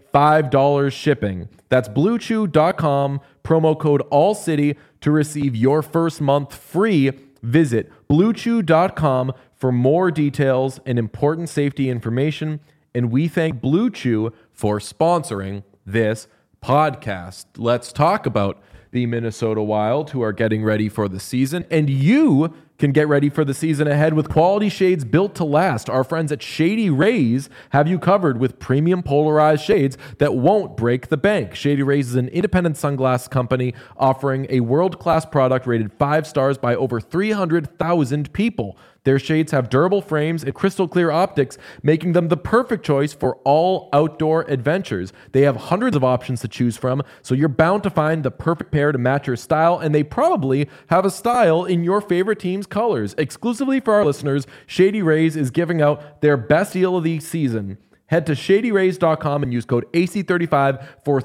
S1: $5 shipping. That's BlueChew.com, promo code ALLCITY to receive your first month free. Visit BlueChew.com for more details and important safety information. And we thank Blue Chew for sponsoring this podcast. Let's talk about the Minnesota Wild, who are getting ready for the season. And you can get ready for the season ahead with quality shades built to last. Our friends at Shady Rays have you covered with premium polarized shades that won't break the bank. Shady Rays is an independent sunglass company offering a world-class product rated 5 stars by over 300,000 people. Their shades have durable frames and crystal clear optics, making them the perfect choice for all outdoor adventures. They have hundreds of options to choose from, so you're bound to find the perfect pair to match your style, and they probably have a style in your favorite team's colors. Exclusively for our listeners, Shady Rays is giving out their best deal of the season. Head to ShadyRays.com and use code AC35 for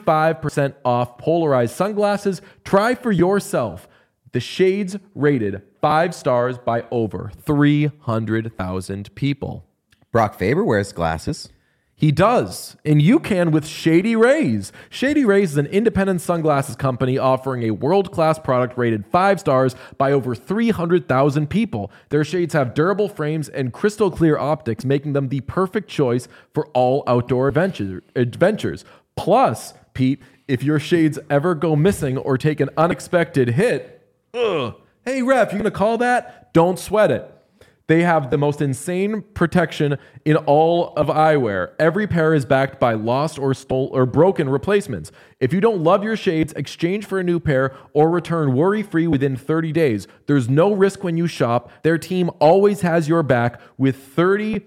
S1: 35% off polarized sunglasses. Try for yourself. The shades rated 5 stars by over 300,000 people.
S3: Brock Faber wears glasses.
S1: He does, and you can with Shady Rays. Shady Rays is an independent sunglasses company offering a world-class product rated 5 stars by over 300,000 people. Their shades have durable frames and crystal clear optics, making them the perfect choice for all outdoor adventures. Plus, Pete, if your shades ever go missing or take an unexpected hit, hey ref, you gonna call that? Don't sweat it. They have the most insane protection in all of eyewear. Every pair is backed by lost or broken replacements. If you don't love your shades, exchange for a new pair or return worry-free within 30 days. There's no risk when you shop. Their team always has your back with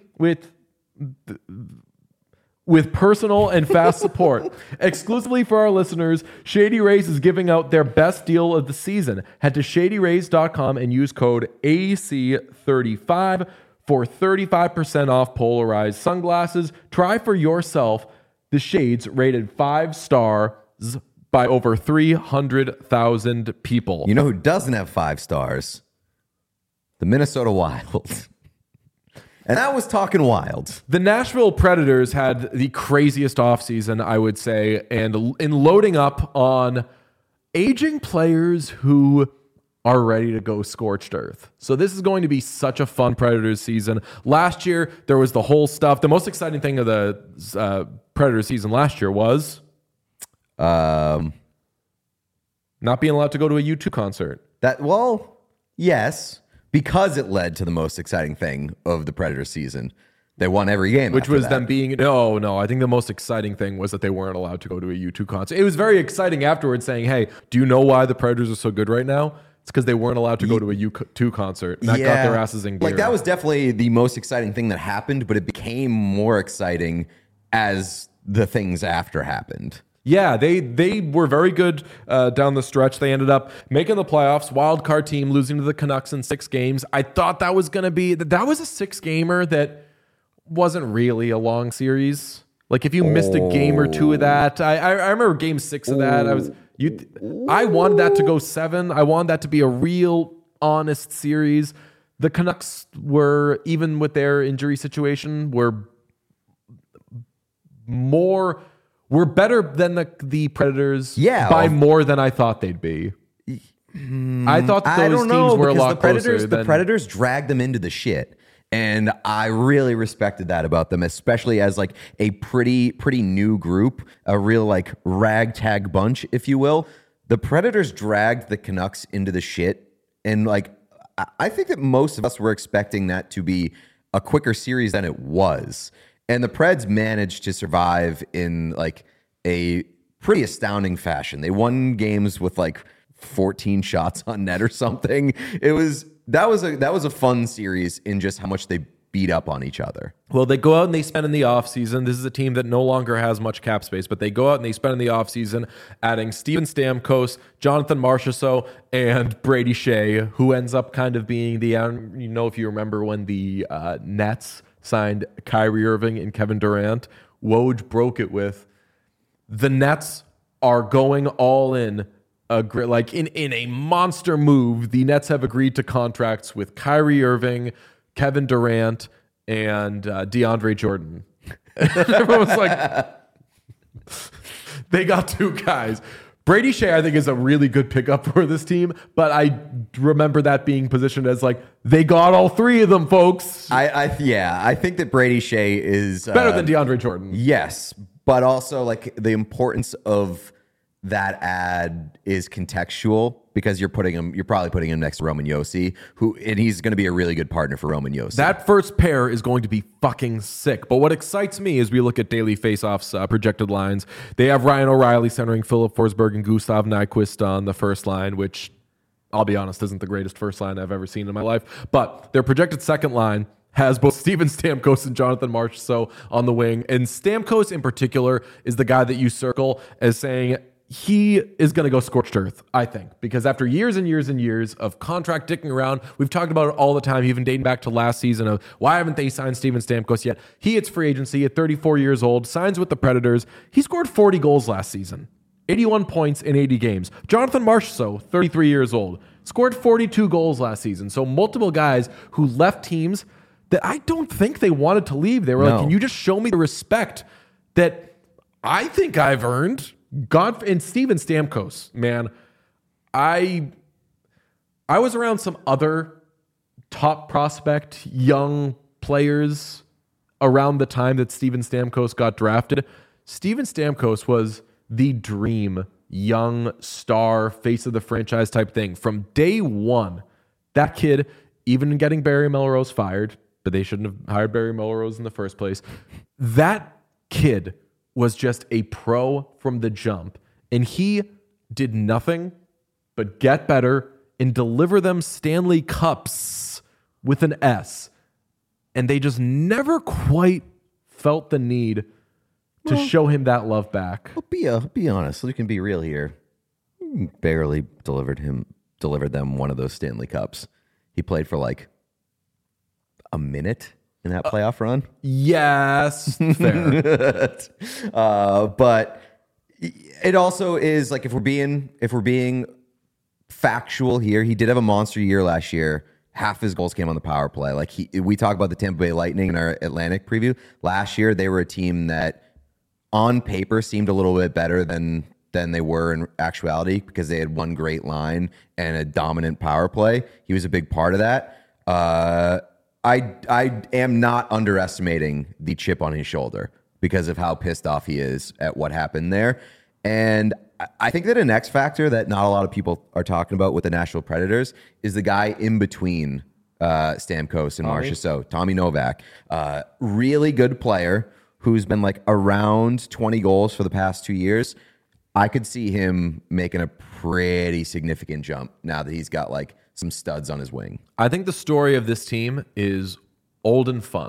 S1: personal and fast support. Exclusively for our listeners, Shady Rays is giving out their best deal of the season. Head to ShadyRays.com and use code AC35 for 35% off polarized sunglasses. Try for yourself the shades rated 5 stars by over 300,000 people.
S3: You know who doesn't have 5 stars? The Minnesota Wild. And I was talking Wild.
S1: The Nashville Predators had the craziest offseason, I would say, and in loading up on aging players who are ready to go scorched earth. So this is going to be such a fun Predators season. Last year, there was the whole stuff. The most exciting thing of the Predators season last year was not being allowed to go to a U2 concert.
S3: Yes. Because it led to the most exciting thing of the Predators season. They won every game.
S1: Which was them being... No. I think the most exciting thing was that they weren't allowed to go to a U2 concert. It was very exciting afterwards saying, hey, do you know why the Predators are so good right now? It's because they weren't allowed to go to a U2 concert. And that got their asses in gear.
S3: Like, that was definitely the most exciting thing that happened, but it became more exciting as the things after happened.
S1: Yeah, they were very good down the stretch. They ended up making the playoffs, wild card team, losing to the Canucks in 6 games. I thought that was going to be that was a 6-gamer that wasn't really a long series. Like if you missed a game or 2 of that, I remember game 6 of that. I wanted that to go 7. I wanted that to be a real honest series. The Canucks were, even with their injury situation, were better than the Predators by more than I thought they'd be. I thought that those teams were a lot closer.
S3: The Predators dragged them into the shit. And I really respected that about them, especially as like a pretty new group, a real like ragtag bunch, if you will. The Predators dragged the Canucks into the shit. And like, I think that most of us were expecting that to be a quicker series than it was. And the Preds managed to survive in like a pretty astounding fashion. They won games with like 14 shots on net or something. That was a fun series in just how much they beat up on each other.
S1: Well, they go out and they spend in the offseason. This is a team that no longer has much cap space, but they go out and they spend in the offseason adding Steven Stamkos, Jonathan Marchessault, and Brady Shea, who ends up kind of being if you remember when the Nets signed Kyrie Irving and Kevin Durant, Woj broke it with, the Nets are going all in. In a monster move, the Nets have agreed to contracts with Kyrie Irving, Kevin Durant, and DeAndre Jordan. Everyone was like, they got 2 guys. Brady Shea, I think, is a really good pickup for this team, but I remember that being positioned as like, they got all 3 of them, folks.
S3: I think that Brady Shea is
S1: better than DeAndre Jordan.
S3: Yes, but also like the importance of that ad is contextual because you're probably putting him next to Roman Josi, and he's going to be a really good partner for Roman Josi.
S1: That first pair is going to be fucking sick. But what excites me is we look at Daily Faceoff's projected lines. They have Ryan O'Reilly centering Philip Forsberg and Gustav Nyquist on the first line, which I'll be honest isn't the greatest first line I've ever seen in my life. But their projected second line has both Steven Stamkos and Jonathan Marchessault on the wing. And Stamkos in particular is the guy that you circle as saying he is going to go scorched earth, I think, because after years and years and years of contract dicking around, we've talked about it all the time, even dating back to last season of why haven't they signed Steven Stamkos yet? He hits free agency at 34 years old, signs with the Predators. He scored 40 goals last season, 81 points in 80 games. Jonathan Marchessault, 33 years old, scored 42 goals last season. So multiple guys who left teams that I don't think they wanted to leave. They were like, can you just show me the respect that I think I've earned? And Steven Stamkos, man, I was around some other top prospect young players around the time that Steven Stamkos got drafted. Steven Stamkos was the dream young star, face of the franchise type thing. From day one, that kid, even getting Barry Melrose fired, but they shouldn't have hired Barry Melrose in the first place, that kid was just a pro from the jump. And he did nothing but get better and deliver them Stanley Cups with an S. And they just never quite felt the need to show him that love back.
S3: Well, be honest. We can be real here. Barely delivered them one of those Stanley Cups. He played for like a minute in that playoff run.
S1: Yes, fair.
S3: But it also is like if we're being factual here, he did have a monster year last year. Half his goals came on the power play. Like we talk about the Tampa Bay Lightning in our Atlantic preview. Last year, they were a team that on paper seemed a little bit better than they were in actuality because they had one great line and a dominant power play. He was a big part of that. I am not underestimating the chip on his shoulder because of how pissed off he is at what happened there. And I think that an X factor that not a lot of people are talking about with the Nashville Predators is the guy in between Stamkos and Marchessault, Tommy Novak. Really good player who's been like around 20 goals for the past 2 years. I could see him making a pretty significant jump now that he's got like some studs on his wing.
S1: I think the story of this team is old and fun.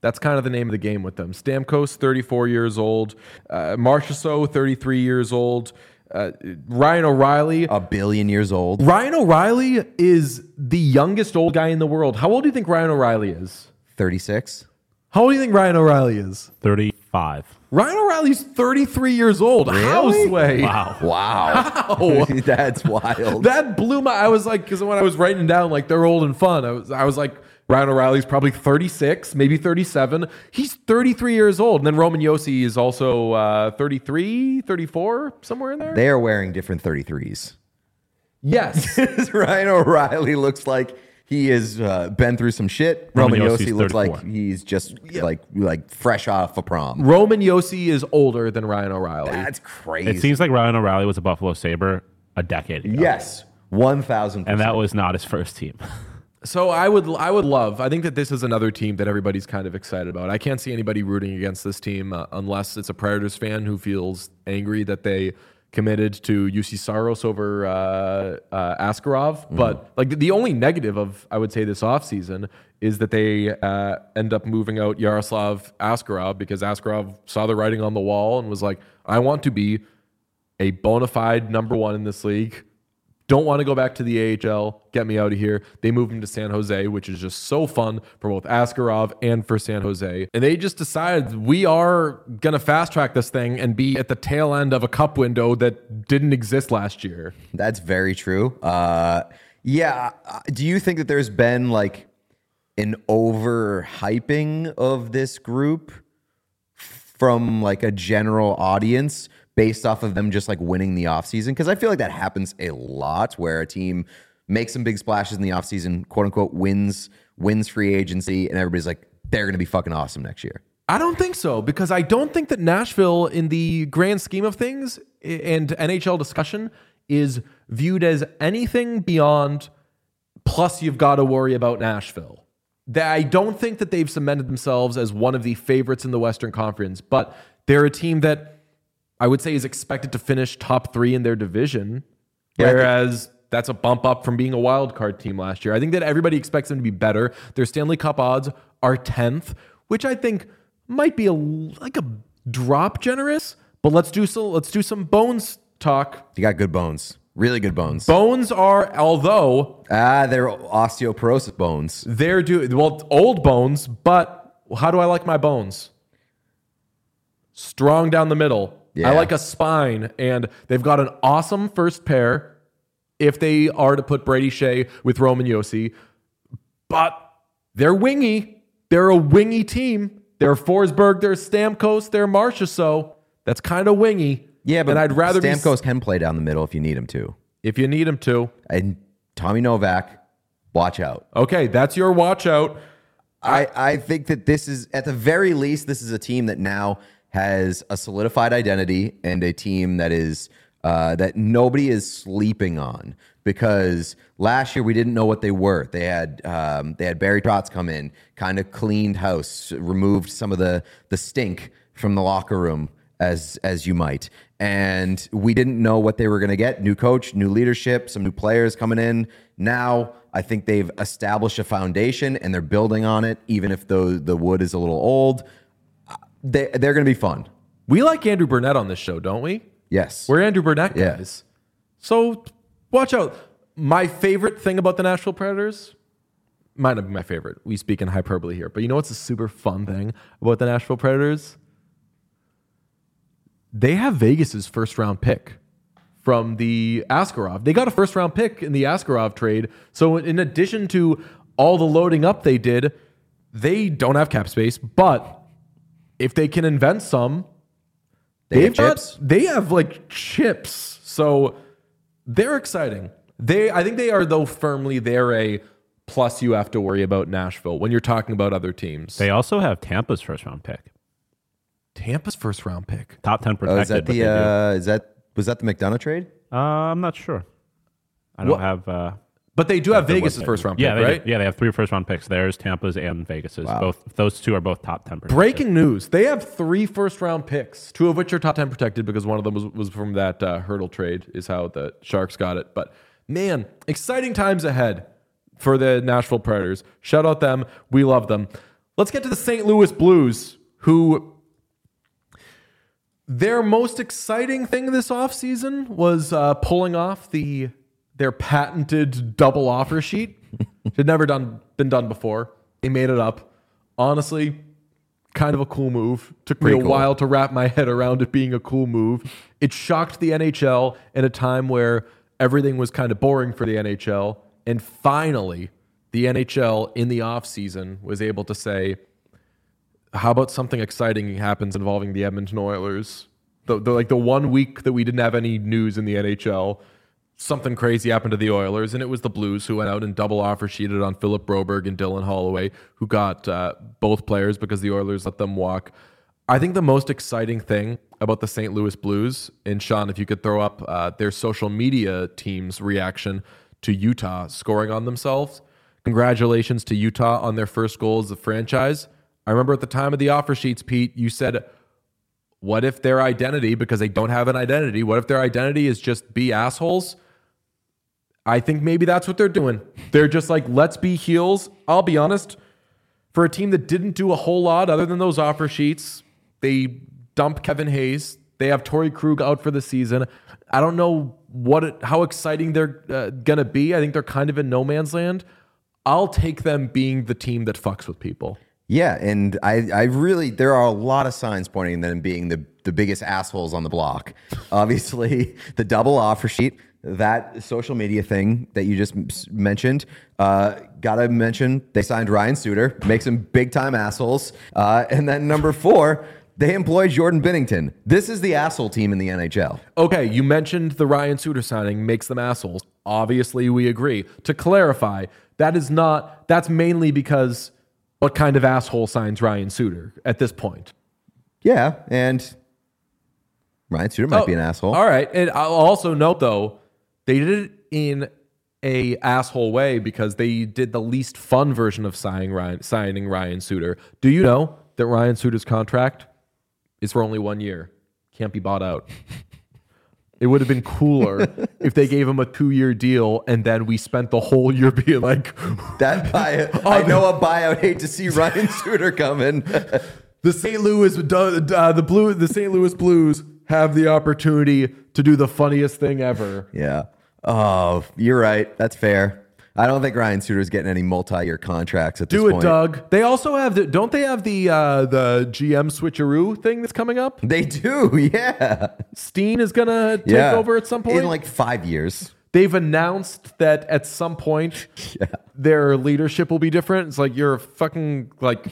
S1: That's kind of the name of the game with them. Stamkos, 34 years old. Marchessault, 33 years old. Ryan O'Reilly.
S3: A billion years old.
S1: Ryan O'Reilly is the youngest old guy in the world. How old do you think Ryan O'Reilly is?
S3: 36.
S1: How old do you think Ryan O'Reilly is?
S2: 35.
S1: Ryan O'Reilly's 33 years old. How, Sway?
S2: Wow.
S3: Wow.
S1: How?
S3: That's wild.
S1: That blew my... I was like... Because when I was writing down, like, they're old and fun, I was like, Ryan O'Reilly's probably 36, maybe 37. He's 33 years old. And then Roman Yossi is also 33, 34, somewhere in there.
S3: They are wearing different 33s.
S1: Yes.
S3: Ryan O'Reilly looks like he has been through some shit. Roman
S2: Yossi's
S3: Yossi looks
S2: 34.
S3: like he's just like fresh off a prom.
S1: Roman Yossi is older than Ryan O'Reilly.
S3: That's crazy.
S2: It seems like Ryan O'Reilly was a Buffalo Sabre a decade ago.
S3: Yes, 1,000%.
S2: And that was not his first team.
S1: So I would love. I think that this is another team that everybody's kind of excited about. I can't see anybody rooting against this team unless it's a Predators fan who feels angry that they committed to UC Saros over Askarov. But like the only negative of, I would say, this offseason is that they end up moving out Yaroslav Askarov because Askarov saw the writing on the wall and was like, I want to be a bona fide number one in this league. Don't want to go back to the AHL. Get me out of here. They moved him to San Jose, which is just so fun for both Askarov and for San Jose. And they just decided we are going to fast track this thing and be at the tail end of a cup window that didn't exist last year.
S3: That's very true. Yeah. Do you think that there's been like an overhyping of this group from like a general audience based off of them just like winning the offseason? Because I feel like that happens a lot where a team makes some big splashes in the offseason, quote unquote, wins free agency, and everybody's like, they're going to be fucking awesome next year.
S1: I don't think so, because I don't think that Nashville, in the grand scheme of things and NHL discussion, is viewed as anything beyond plus you've got to worry about Nashville. I don't think that they've cemented themselves as one of the favorites in the Western Conference, but they're a team that I would say is expected to finish top 3 in their division, whereas that's a bump up from being a wild card team last year. I think that everybody expects them to be better. Their Stanley Cup odds are 10th, which I think might be like a drop generous, but let's do some Bones talk.
S3: You got good bones. Really good bones.
S1: Bones are, although
S3: they're osteoporosis bones.
S1: they're old bones, but how do I like my bones? Strong down the middle.
S3: Yeah.
S1: I like a spine, and they've got an awesome first pair if they are to put Brady Shea with Roman Yossi, but they're wingy. They're a wingy team. They're Forsberg, they're Stamkos, they're Marchessault. That's kind of wingy.
S3: Yeah, but
S1: and I'd rather
S3: Stamkos can play down the middle if you need him to.
S1: if you need him to.
S3: And Tommy Novak, watch out.
S1: Okay, that's your watch out.
S3: I think that this is, at the very least, this is a team that now has a solidified identity and a team that is that nobody is sleeping on, because last year we didn't know what they were. They had Barry Trotz come in, kind of cleaned house, removed some of the stink from the locker room, as you might, and we didn't know what they were going to get. New coach, new leadership, some new players coming in. Now I think they've established a foundation and they're building on it, even if the wood is a little old. They're going to be fun.
S1: We like Andrew Burnett on this show, don't we?
S3: Yes.
S1: We're Andrew Burnett
S3: Yeah.
S1: guys. So watch out. My favorite thing about the Nashville Predators, might not be my favorite. We speak in hyperbole here. But you know what's a super fun thing about the Nashville Predators? They have Vegas's first round pick from the Askarov. They got a first round pick in the Askarov trade. So in addition to all the loading up they did, they don't have cap space, but if they can invent some,
S3: They have chips.
S1: They have like chips. So they're exciting. I think they are, though, firmly they're a plus you have to worry about Nashville when you're talking about other teams.
S2: They also have Tampa's first round pick.
S1: Tampa's first round pick.
S2: Top 10 protected.
S3: Is that
S2: but they do.
S3: was that the McDonough trade?
S2: I'm not sure. I don't have...
S1: But they do have
S2: the
S1: Vegas'
S2: website.
S1: first round pick,
S2: Yeah, they
S1: right?
S2: do. Yeah, they have 3 first round picks. Theirs, Tampa's, and Vegas's.
S3: Wow.
S2: Those two are both top 10 protected.
S1: Breaking news. They have 3 first round picks, 2 of which are top 10 protected because one of them was from that hurdle trade is how the Sharks got it. But man, exciting times ahead for the Nashville Predators. Shout out them. We love them. Let's get to the St. Louis Blues, who their most exciting thing this offseason was pulling off their patented double offer sheet. It had never been done before. They made it up. Honestly, kind of a cool move. Took me a while to wrap my head around it being a cool move. It shocked the NHL in a time where everything was kind of boring for the NHL. And finally, the NHL in the offseason was able to say, how about something exciting happens involving the Edmonton Oilers? The 1 week that we didn't have any news in the NHL, something crazy happened to the Oilers, and it was the Blues who went out and double offer sheeted on Philip Broberg and Dylan Holloway, who got both players because the Oilers let them walk. I think the most exciting thing about the St. Louis Blues, and Sean, if you could throw up their social media team's reaction to Utah scoring on themselves. Congratulations to Utah on their first goal as a franchise. I remember at the time of the offer sheets, Pete, you said, what if their identity, because they don't have an identity, what if their identity is just be assholes? I think maybe that's what they're doing. They're just like, let's be heels. I'll be honest, for a team that didn't do a whole lot other than those offer sheets, they dumped Kevin Hayes. They have Torrey Krug out for the season. I don't know how exciting they're going to be. I think they're kind of in no man's land. I'll take them being the team that fucks with people.
S3: Yeah, and I really, there are a lot of signs pointing to them being the biggest assholes on the block. Obviously, the double offer sheet, that social media thing that you just mentioned, gotta mention, they signed Ryan Suter, makes them big-time assholes. And then number 4, they employed Jordan Binnington. This is the asshole team in the NHL.
S1: Okay, you mentioned the Ryan Suter signing makes them assholes. Obviously, we agree. To clarify, that's mainly because what kind of asshole signs Ryan Suter at this point?
S3: Yeah, and Ryan Suter might be an asshole.
S1: All right, and I'll also note, though, they did it in a asshole way because they did the least fun version of signing Ryan Suter. Do you know that Ryan Suter's contract is for only 1 year? Can't be bought out. It would have been cooler if they gave him a 2-year deal and then we spent the whole year being like,
S3: that buyout. I know a buyout. Hate to see Ryan Suter coming.
S1: The St. Louis Blues have the opportunity to do the funniest thing ever.
S3: Yeah. Oh, you're right. That's fair. I don't think Ryan Suter's getting any multi-year contracts at this point.
S1: Do it, Doug. They also have don't they have the GM switcheroo thing that's coming up?
S3: They do, yeah.
S1: Steen is gonna take over at some point
S3: in like 5 years.
S1: They've announced that at some point their leadership will be different. It's like you're a fucking like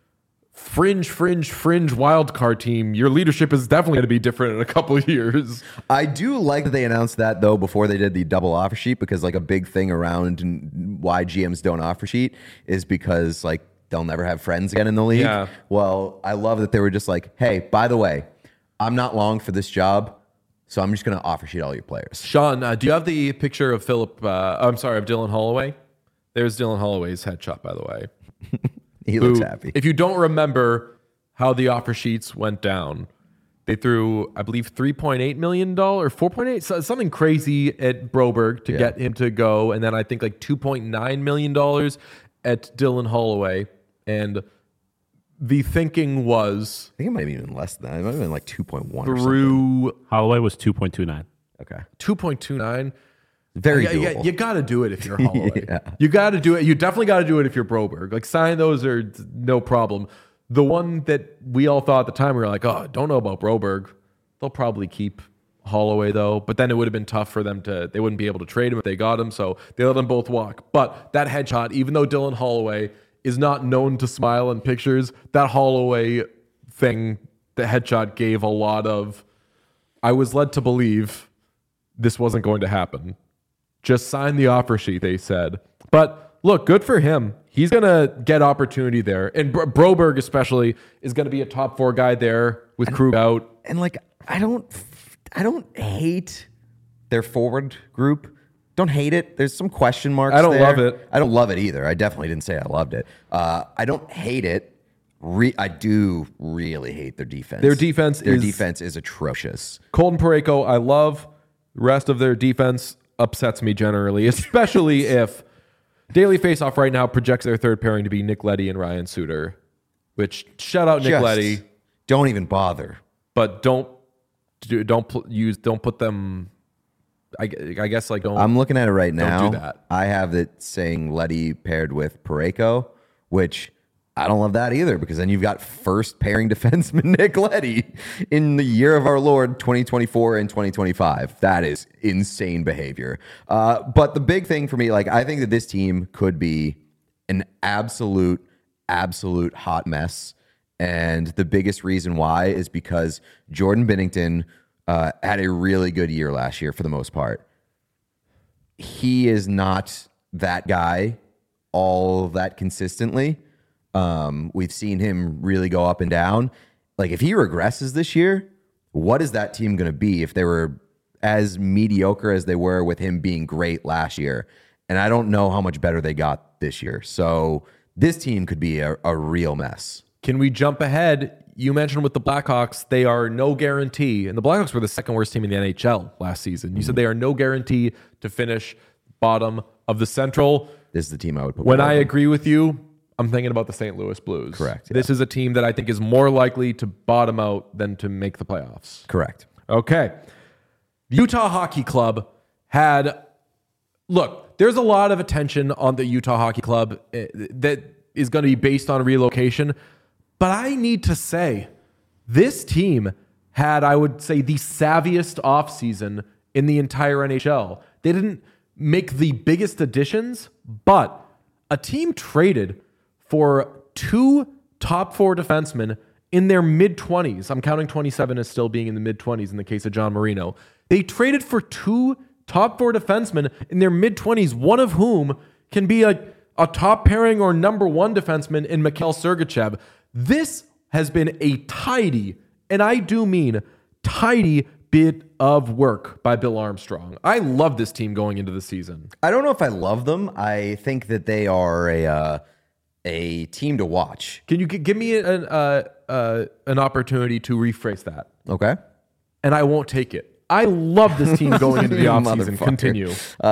S1: fringe wild card team. Your leadership is definitely going to be different in a couple of years.
S3: I do like that they announced that though before they did the double offer sheet, because like a big thing around why GMs don't offer sheet is because like they'll never have friends again in the league.
S1: Yeah.
S3: Well, I love that they were just like, hey, by the way, I'm not long for this job, so I'm just going to offer sheet all your players.
S1: Sean, do you have the picture of of Dylan Holloway? There's Dylan Holloway's headshot, by the way.
S3: He looks happy.
S1: If you don't remember how the offer sheets went down, they threw, I believe, $3.8 million or 4.8, something crazy at Broberg to get him to go. And then I think like $2.9 million at Dylan Holloway. And the thinking was...
S3: I think it might have been even less than that. It might have been like 2.1 or
S1: something.
S2: Holloway was 2.29.
S3: Okay.
S1: 2.29.
S3: Very doable.
S1: You got to do it if you're Holloway. You got to do it. You definitely got to do it if you're Broberg. Like, sign those are no problem. The one that we all thought at the time, we were like, oh, don't know about Broberg. They'll probably keep Holloway, though. But then it would have been tough for them they wouldn't be able to trade him if they got him. So they let them both walk. But that headshot, even though Dylan Holloway is not known to smile in pictures, that Holloway thing, the headshot gave a lot of, I was led to believe this wasn't going to happen. Just sign the offer sheet, they said. But look, good for him. He's going to get opportunity there. And Broberg especially is going to be a top 4 guy there with Krug out.
S3: And like, I don't hate their forward group. Don't hate it. There's some question marks.
S1: I don't love it.
S3: I don't love it either. I definitely didn't say I loved it. I don't hate it. I do really hate their defense. Their defense is atrocious.
S1: Colton Parayko, I love. The rest of their defense upsets me generally, especially if Daily Faceoff right now projects their third pairing to be Nick Leddy and Ryan Suter. which shout out Nick
S3: Just
S1: Leddy,
S3: don't even bother.
S1: but don't put them. I guess like don't.
S3: I'm looking at it right
S1: Don't
S3: now.
S1: do that.
S3: I have it saying Letty paired with Pareko, which I don't love that either, because then you've got first pairing defenseman Nick Leddy in the year of our Lord 2024 and 2025. That is insane behavior. But the big thing for me, like, I think that this team could be an absolute hot mess. And the biggest reason why is because Jordan Binnington had a really good year last year for the most part. He is not that guy all that consistently. We've seen him really go up and down. Like, if he regresses this year, what is that team going to be if they were as mediocre as they were with him being great last year? And I don't know how much better they got this year. So this team could be a real mess.
S1: Can we jump ahead? You mentioned with the Blackhawks, they are no guarantee, and the Blackhawks were the second worst team in the NHL last season. You said they are no guarantee to finish bottom of the Central.
S3: This is the team I would put.
S1: When I agree with you, I'm thinking about the St. Louis Blues.
S3: Correct, yeah.
S1: This is a team that I think is more likely to bottom out than to make the playoffs.
S3: Correct.
S1: Okay. Utah Hockey Club had... Look, there's a lot of attention on the Utah Hockey Club that is going to be based on relocation. But I need to say, this team had, I would say, the savviest offseason in the entire NHL. They didn't make the biggest additions, but a team traded for 2 top 4 defensemen in their mid-20s. I'm counting 27 as still being in the mid-20s in the case of John Marino. They traded for 2 top 4 defensemen in their mid-20s, one of whom can be a top pairing or number 1 defenseman in Mikhail Sergachev. This has been a tidy, and I do mean tidy, bit of work by Bill Armstrong. I love this team going into the season.
S3: I don't know if I love them. I think that they are a team to watch.
S1: Can you give me an opportunity to rephrase that?
S3: Okay.
S1: And I won't take it. I love this team going into the offseason.
S3: Motherfucker.
S1: Continue.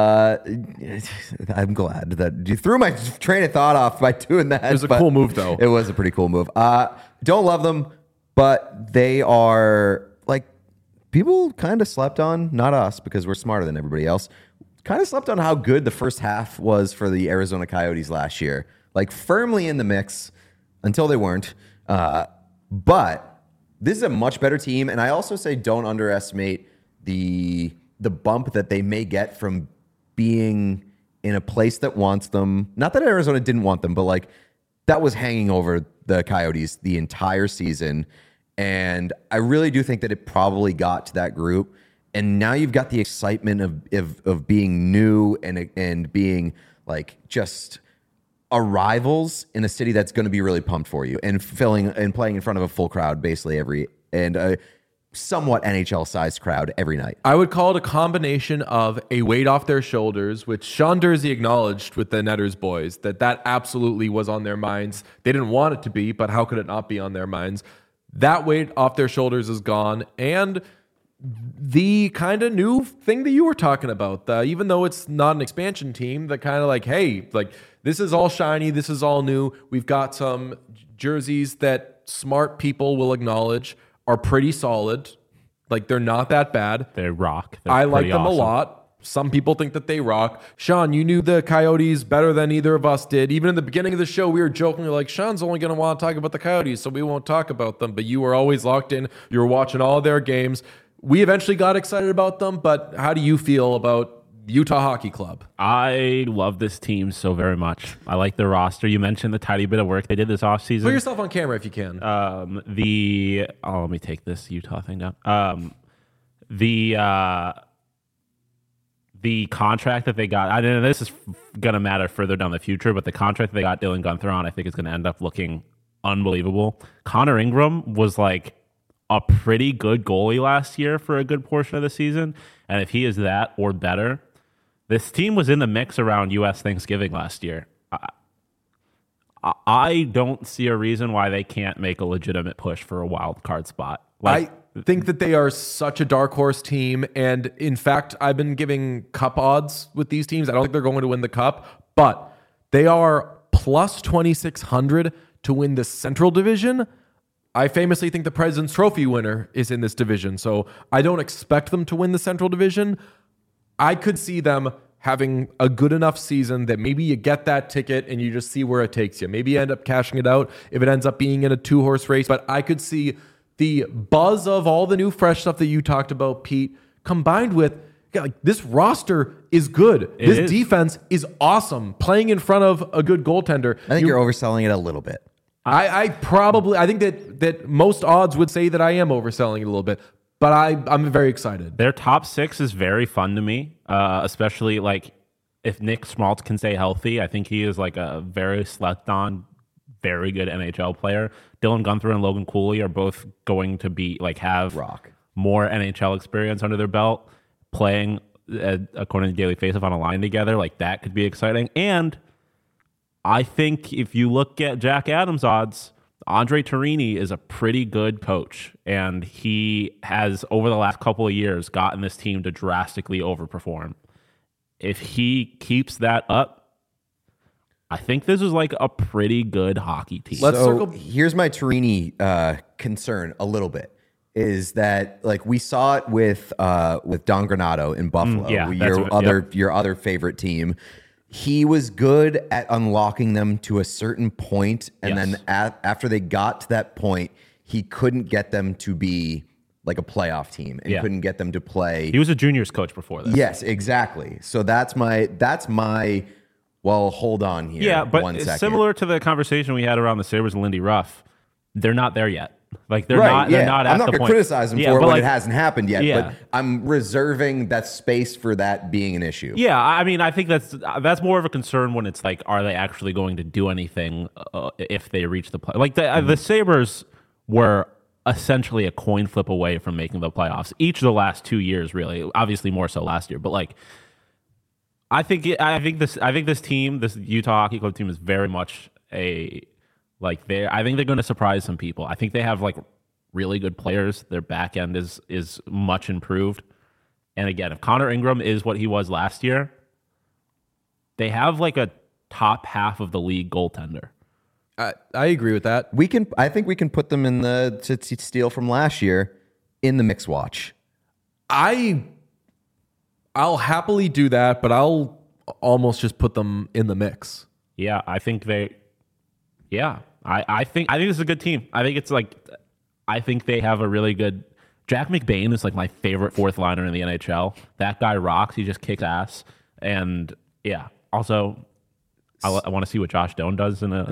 S3: I'm glad that you threw my train of thought off by doing that.
S1: It was a cool move, though.
S3: It was a pretty cool move. Don't love them, but they are, like, people kind of slept on, not us because we're smarter than everybody else, kind of slept on how good the first half was for the Arizona Coyotes last year. Like, firmly in the mix until they weren't. But this is a much better team. And I also say don't underestimate the bump that they may get from being in a place that wants them. Not that Arizona didn't want them, but like that was hanging over the Coyotes the entire season. And I really do think that it probably got to that group. And now you've got the excitement of being new and being like just arrivals in a city that's going to be really pumped for you and playing in front of a full crowd basically a somewhat NHL-sized crowd every night.
S1: I would call it a combination of a weight off their shoulders, which Sean Dursey acknowledged with the Netters boys, that absolutely was on their minds. They didn't want it to be, but how could it not be on their minds? That weight off their shoulders is gone, and the kind of new thing that you were talking about, even though it's not an expansion team, that kind of like, hey, like this is all shiny, this is all new. We've got some jerseys that smart people will acknowledge are pretty solid. Like, they're not that bad.
S2: They rock. They're
S1: I like
S2: pretty
S1: them
S2: awesome.
S1: a lot. Some people think that they rock. Sean, you knew the Coyotes better than either of us did. Even in the beginning of the show, we were jokingly like, Sean's only going to want to talk about the Coyotes, so we won't talk about them. But you were always locked in. You were watching all of their games. We eventually got excited about them, but how do you feel about Utah Hockey Club?
S2: I love this team so very much. I like their roster. You mentioned the tiny bit of work they did this offseason.
S1: Put yourself on camera if you can.
S2: Let me take this Utah thing down. The contract that they got, I know this is going to matter further down the future, but the contract that they got Dylan Gunther on, I think is going to end up looking unbelievable. Connor Ingram was like a pretty good goalie last year for a good portion of the season. And if he is that or better, this team was in the mix around U.S. Thanksgiving last year. I don't see a reason why they can't make a legitimate push for a wild card spot.
S1: I think that they are such a dark horse team. And in fact, I've been giving cup odds with these teams. I don't think they're going to win the cup, but they are plus 2,600 to win the Central Division. I famously think the President's Trophy winner is in this division, so I don't expect them to win the Central Division. I could see them having a good enough season that maybe you get that ticket and you just see where it takes you. Maybe you end up cashing it out if it ends up being in a 2-horse race, but I could see the buzz of all the new fresh stuff that you talked about, Pete, combined with this roster is good. This defense is awesome. Playing in front of a good goaltender.
S3: I think you're overselling it a little bit.
S1: I think that most odds would say that I am overselling it a little bit, but I'm very excited.
S2: Their top 6 is very fun to me, especially like if Nick Schmaltz can stay healthy. I think he is like a very slept on, very good NHL player. Dylan Gunther and Logan Cooley are both going to be have more NHL experience under their belt, playing according to Daily Faceoff on a line together. Like that could be exciting. And I think if you look at Jack Adams' odds, Andre Torini is a pretty good coach, and he has over the last couple of years gotten this team to drastically overperform. If he keeps that up, I think this is like a pretty good hockey team.
S3: Here's my Torini concern a little bit, is that like we saw it with Don Granato in Buffalo, your other favorite team. He was good at unlocking them to a certain point, and then after they got to that point, he couldn't get them to be like a playoff team and couldn't get them to play.
S2: He was a juniors coach before this.
S3: Yes, exactly. So that's my. Well, hold on here.
S2: Yeah, but
S3: 1 second.
S2: Similar to the conversation we had around the Sabres and Lindy Ruff, they're not there yet. Like they're not. They're not at
S3: I'm not
S2: the
S3: going to
S2: point.
S3: criticize them for it when it hasn't happened yet.
S2: Yeah.
S3: But I'm reserving that space for that being an issue.
S2: Yeah, I mean, I think that's more of a concern when it's like, are they actually going to do anything if they reach the play? Like the Sabres were essentially a coin flip away from making the playoffs each of the last 2 years. Really, obviously more so last year, but like. I think this team, this Utah Hockey Club team, is very much I think they're going to surprise some people. I think they have like really good players. Their back end is much improved. And again, if Connor Ingram is what he was last year, they have like a top half of the league goaltender.
S1: I agree with that.
S3: I think we can put them in to steal from last year in the mix watch.
S1: I'll happily do that, but I'll almost just put them in the mix.
S2: Yeah, I think they. Yeah, I think this is a good team. I think they have a really good. Jack McBain is like my favorite fourth liner in the NHL. That guy rocks. He just kicks ass. And yeah, also I want to see what Josh Doan does in a.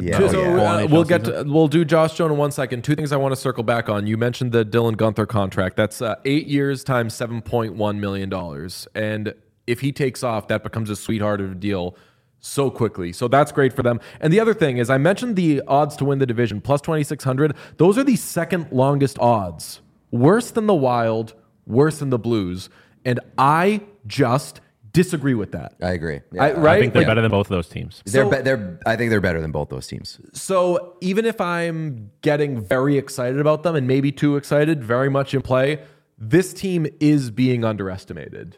S1: We'll do Josh Doan in 1 second. 2 things I want to circle back on. You mentioned the Dylan Gunther contract. That's 8 years times $7.1 million. And if he takes off, that becomes a sweetheart of a deal so quickly. So that's great for them. And the other thing is, I mentioned the odds to win the division, plus 2,600. Those are the second longest odds. Worse than the Wild, worse than the Blues. And I just disagree with that.
S3: I agree. Yeah.
S2: I think they're better than both of those teams.
S3: I think they're better than both those teams.
S1: So even if I'm getting very excited about them and maybe too excited, very much in play, this team is being underestimated.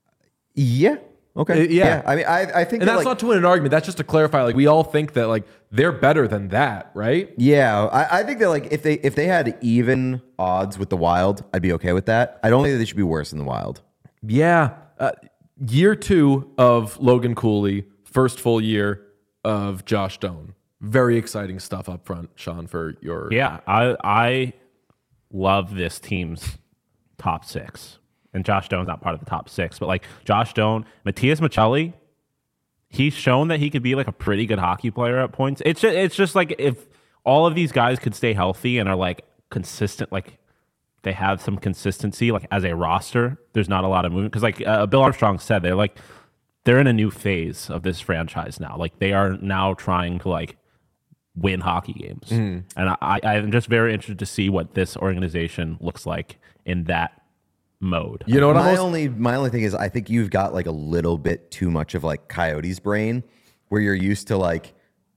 S3: Yeah. Okay.
S1: Yeah.
S3: I mean, I think,
S1: and that's not to win an argument. That's just to clarify. Like we all think that like they're better than that, right?
S3: Yeah. I think that like if they had even odds with the Wild, I'd be okay with that. I don't think that they should be worse than the Wild.
S1: Yeah. Year 2 of Logan Cooley, first full year of Josh Doan. Very exciting stuff up front, Sean, for your...
S2: Yeah, I love this team's top 6. And Josh Doan's not part of the top 6, but like Josh Doan, Matthias Maccelli, he's shown that he could be like a pretty good hockey player at points. It's just like if all of these guys could stay healthy and are like consistent, like they have some consistency, like as a roster, there's not a lot of movement. Because like Bill Armstrong said, they're in a new phase of this franchise now. Like they are now trying to like win hockey games. And I'm just very interested to see what this organization looks like in that mode.
S3: You know what? My only thing is I think you've got like a little bit too much of like Coyotes brain, where you're used to like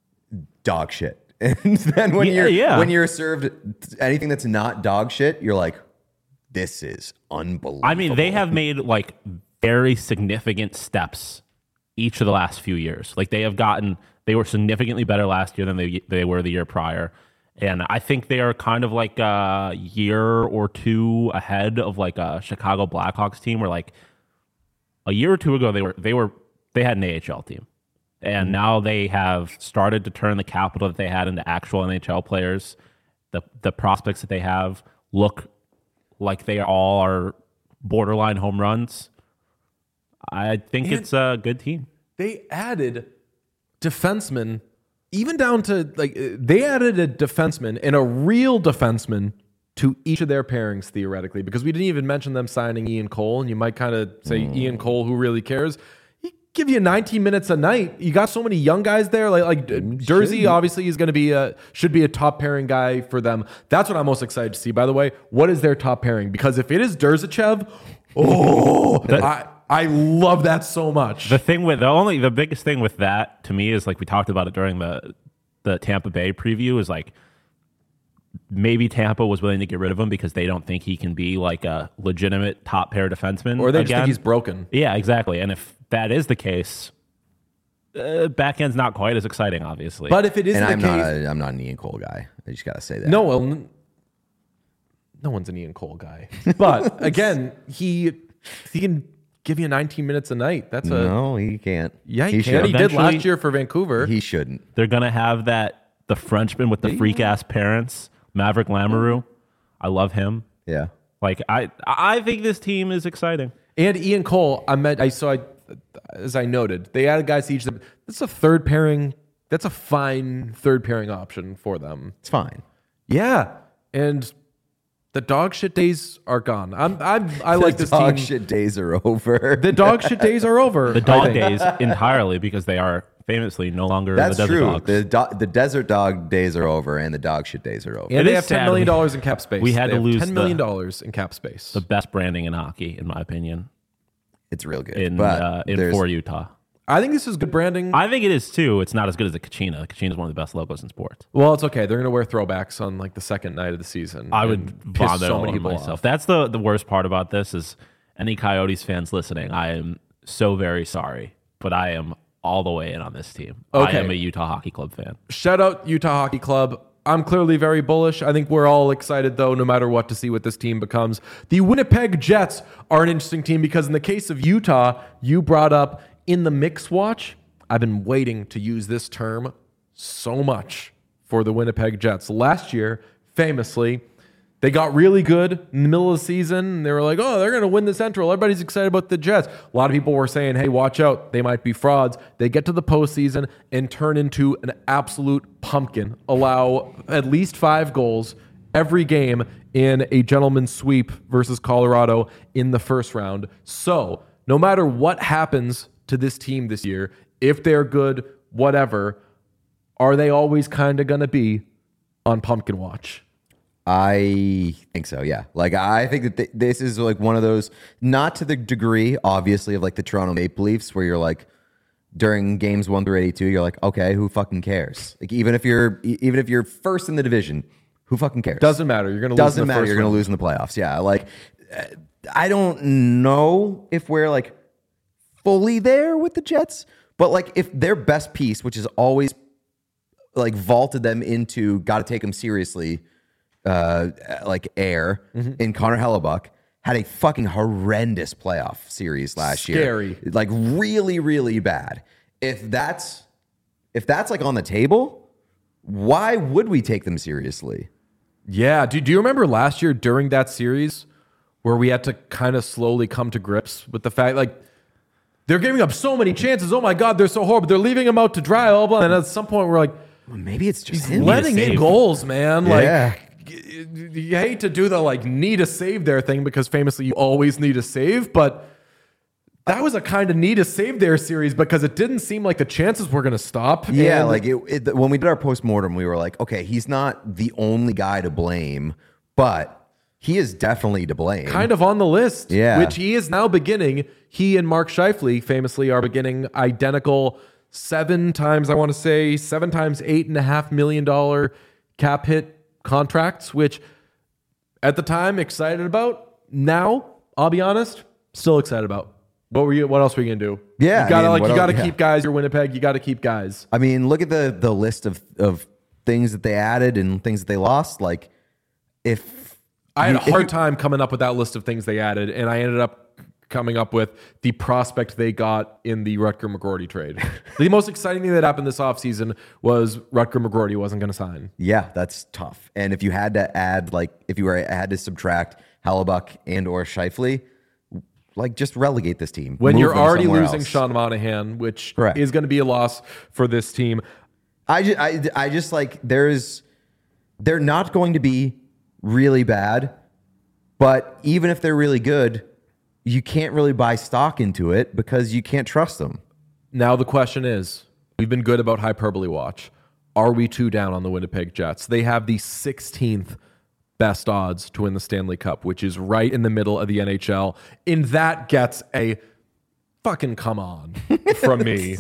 S3: dog shit. And then when you're served anything that's not dog shit, you're like, this is unbelievable.
S2: I mean, they have made like very significant steps each of the last few years. Like they have gotten They were significantly better last year than they were the year prior. And I think they are kind of like a year or two ahead of like a Chicago Blackhawks team where like a year or two ago they had an AHL team. And now they have started to turn the capital that they had into actual NHL players. The prospects that they have look like they all are borderline home runs. I think it's a good team.
S1: They added defensemen, even down to like they added a defenseman and a real defenseman to each of their pairings theoretically, because we didn't even mention them signing Ian Cole, and you might kind of say Ian Cole, who really cares? He give you 19 minutes a night. You got so many young guys there. Like Jersey obviously is going to be should be a top pairing guy for them. That's what I'm most excited to see. By the way, what is their top pairing? Because if it is Durzachev, I love that so much.
S2: The biggest thing with that to me is like we talked about it during the Tampa Bay preview is like maybe Tampa was willing to get rid of him because they don't think he can be like a legitimate top pair defenseman.
S1: Or they just think he's broken.
S2: Yeah, exactly. And if that is the case, backend's not quite as exciting, obviously.
S1: But if it isn't
S3: And
S1: the case,
S3: I'm not an Ian Cole guy. I just gotta say that.
S1: no one's an Ian Cole guy. But again, he can give you 19 minutes a night.
S3: No, he can't.
S1: Yeah, he can.
S3: shouldn't.
S1: He did
S2: Eventually-
S1: last year for Vancouver.
S3: He shouldn't.
S2: They're gonna have the Frenchman with the freak ass parents, Maverick Lamoureux. I love him.
S3: Yeah.
S2: Like I think this team is exciting.
S1: And Ian Cole, as I noted, they added guys to each of them. That's a third pairing. That's a fine third pairing option for them.
S3: It's fine.
S1: Yeah, and the dog shit days are gone. I like this
S3: dog
S1: team.
S3: shit days are over.
S1: The dog shit days are over.
S2: The dog days entirely because they are famously no longer
S3: That's
S2: the Desert
S3: true.
S2: Dogs.
S3: The desert dog days are over, and the dog shit days are over.
S1: And
S2: It
S1: they
S2: is
S1: have $10
S2: sad.
S1: million in cap space.
S2: We had
S1: They
S2: to
S1: have
S2: lose
S1: $10 million in cap space.
S2: The best branding in hockey, in my opinion,
S3: It's real good.
S2: in
S3: but
S2: for Utah.
S1: I think this is good branding.
S2: I think it is too. It's not as good as the Kachina. The Kachina is one of the best logos in sports.
S1: Well, it's okay. They're going to wear throwbacks on like the second night of the season.
S2: I
S1: and
S2: would
S1: piss
S2: vomit
S1: so
S2: all
S1: many
S2: over
S1: people
S2: myself.
S1: off.
S2: That's the worst part about this is any Coyotes fans listening. I am so very sorry, but I am all the way in on this team.
S1: Okay.
S2: I am a Utah Hockey Club fan.
S1: Shout out Utah Hockey Club. I'm clearly very bullish. I think we're all excited, though, no matter what, to see what this team becomes. The Winnipeg Jets are an interesting team because in the case of Utah, you brought up in the mix watch. I've been waiting to use this term so much for the Winnipeg Jets. Last year, famously, they got really good in the middle of the season. They were like, oh, they're going to win the Central. Everybody's excited about the Jets. A lot of people were saying, hey, watch out. They might be frauds. They get to the postseason and turn into an absolute pumpkin. Allow at least 5 goals every game in a gentleman's sweep versus Colorado in the first round. So no matter what happens to this team this year, if they're good, whatever, are they always kind of going to be on pumpkin watch?
S3: I think so, yeah. Like, I think that this is like one of those, not to the degree, obviously, of like the Toronto Maple Leafs, where you're like, during games 1 through 82, you're like, okay, who fucking cares? Like, even if you're first in the division, who fucking cares?
S1: Doesn't matter. You're going to lose.
S3: Doesn't matter. You're going to lose in the playoffs. Yeah. Like, I don't know if we're like fully there with the Jets, but like if their best piece, which is always like vaulted them into got to take them seriously, like air in Connor Hellebuck, had a fucking horrendous playoff series last year.
S1: Scary.
S3: Like really, really bad. If that's like on the table, why would we take them seriously?
S1: Yeah. Do you remember last year during that series where we had to kind of slowly come to grips with the fact, like, they're giving up so many chances. Oh my God, they're so horrible. They're leaving them out to dry. Blah, blah. And at some point, we're like,
S3: Well, maybe it's just
S1: he's
S3: him.
S1: letting in goals, man. Like,
S3: Yeah.
S1: you hate to do the like need a save there thing because famously you always need a save, but that was a kind of need a save there series because it didn't seem like the chances were going to stop.
S3: Yeah,
S1: And
S3: like when we did our postmortem, we were like, okay, he's not the only guy to blame, but he is definitely to blame.
S1: kind of on the list,
S3: Yeah.
S1: which he is now beginning. He and Mark Scheifele famously are beginning identical 7 times $8.5 million cap hit contracts, which at the time excited about. Now, I'll be honest, still excited about. What else were you gonna do?
S3: Yeah,
S1: you gotta
S3: I mean, what
S1: you gotta
S3: else-
S1: keep guys. You're Winnipeg. You gotta keep guys.
S3: I mean, look at the list of things that they added and things that they lost. Like, if
S1: I had a
S3: if
S1: hard
S3: you-
S1: time coming up with that list of things they added, and I ended up coming up with the prospect they got in the Rutger McGroarty trade. The most exciting thing that happened this offseason was Rutger McGroarty wasn't going to sign.
S3: Yeah, that's tough. And if you had to add, like, if you had to subtract Hellebuck and or Scheifele, like, just relegate this team.
S1: When
S3: Move
S1: you're
S3: them
S1: already
S3: somewhere
S1: losing
S3: else.
S1: Sean Monahan, which
S3: Correct.
S1: is going to be a loss for this team.
S3: I just like they're not going to be really bad, but even if they're really good, you can't really buy stock into it because you can't trust them.
S1: Now the question is, we've been good about hyperbole watch. Are we too down on the Winnipeg Jets? They have the 16th best odds to win the Stanley Cup, which is right in the middle of the NHL. And that gets a fucking come on from me.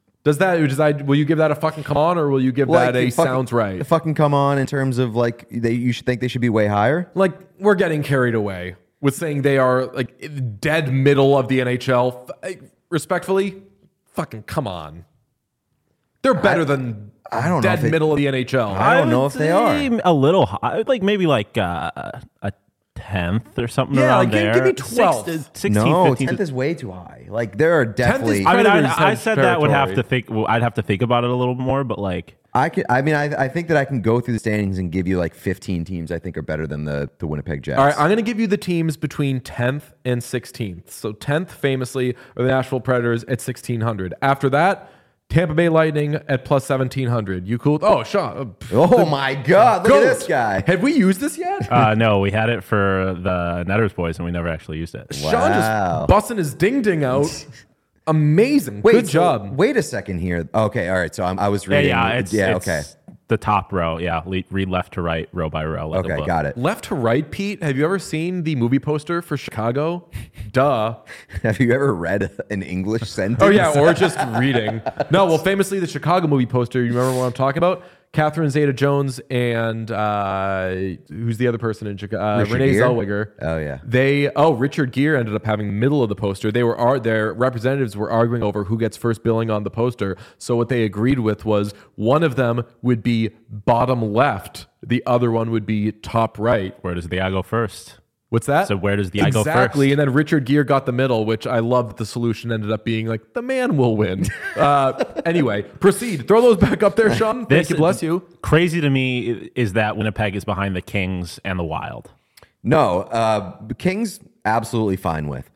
S1: Will you give that a fucking come on, or will you give that a sounds right?
S3: Fucking come on in terms of like you should think they should be way higher.
S1: Like, we're getting carried away with saying they are like dead middle of the NHL. Respectfully, fucking come on. They're better than
S3: I don't know
S1: dead
S3: if it-
S1: middle of the NHL.
S3: I don't know if they are.
S2: A little high, like maybe like a 10th or something
S1: Yeah,
S2: around
S1: like,
S2: there.
S1: give me 12th.
S2: 16,
S3: No,
S2: 15.
S3: 10th is way too high. Like there are definitely.
S2: I mean,
S1: Predators
S2: I
S1: have
S2: said that would have to
S1: territory.
S2: think. Well, I'd have to think about it a little more, but like,
S3: I think that I can go through the standings and give you like 15 teams I think are better than the Winnipeg Jets.
S1: All right, I'm going to give you the teams between 10th and 16th. So 10th, famously, are the Nashville Predators at 1,600. After that, Tampa Bay Lightning at plus 1,700. You cool? Oh, Sean.
S3: Oh my God! Look at this guy.
S1: Have we used this yet?
S2: no, we had it for the Netters boys, and we never actually used it.
S3: Wow.
S1: Sean just busting his ding out. Amazing. Good
S3: so
S1: job.
S3: Wait a second here. Okay, all right. So I was reading.
S2: It's
S3: okay.
S2: the top row. Yeah, read left to right, row by row. Like a
S3: Okay,
S2: book.
S3: got it.
S1: Left to right, Pete. Have you ever seen the movie poster for Chicago? Duh.
S3: Have you ever read an English sentence?
S1: Oh, yeah, or just reading. No, well, famously, the Chicago movie poster, you remember what I'm talking about? Catherine Zeta-Jones and who's the other person in Chicago?
S3: Richard
S1: Renee
S3: Gere?
S1: Zellweger.
S3: Oh, yeah.
S1: Richard Gere ended up having the middle of the poster. Their representatives were arguing over who gets first billing on the poster. So what they agreed with was one of them would be bottom left, the other one would be top right.
S2: Where does the eye go first?
S1: What's that?
S2: So where does the eye go
S1: Exactly.
S2: first?
S1: And then Richard Gere got the middle, which I love that the solution ended up being like, the man will win. Anyway, proceed. Throw those back up there, Sean. Thank you. Bless you.
S2: Crazy to me is that Winnipeg is behind the Kings and the Wild.
S3: No, Kings absolutely fine with.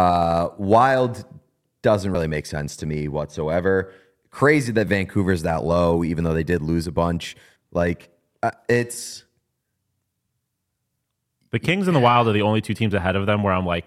S3: Wild doesn't really make sense to me whatsoever. Crazy that Vancouver's that low, even though they did lose a bunch. Like it's.
S2: The Kings and the Wild are the only two teams ahead of them where I'm like,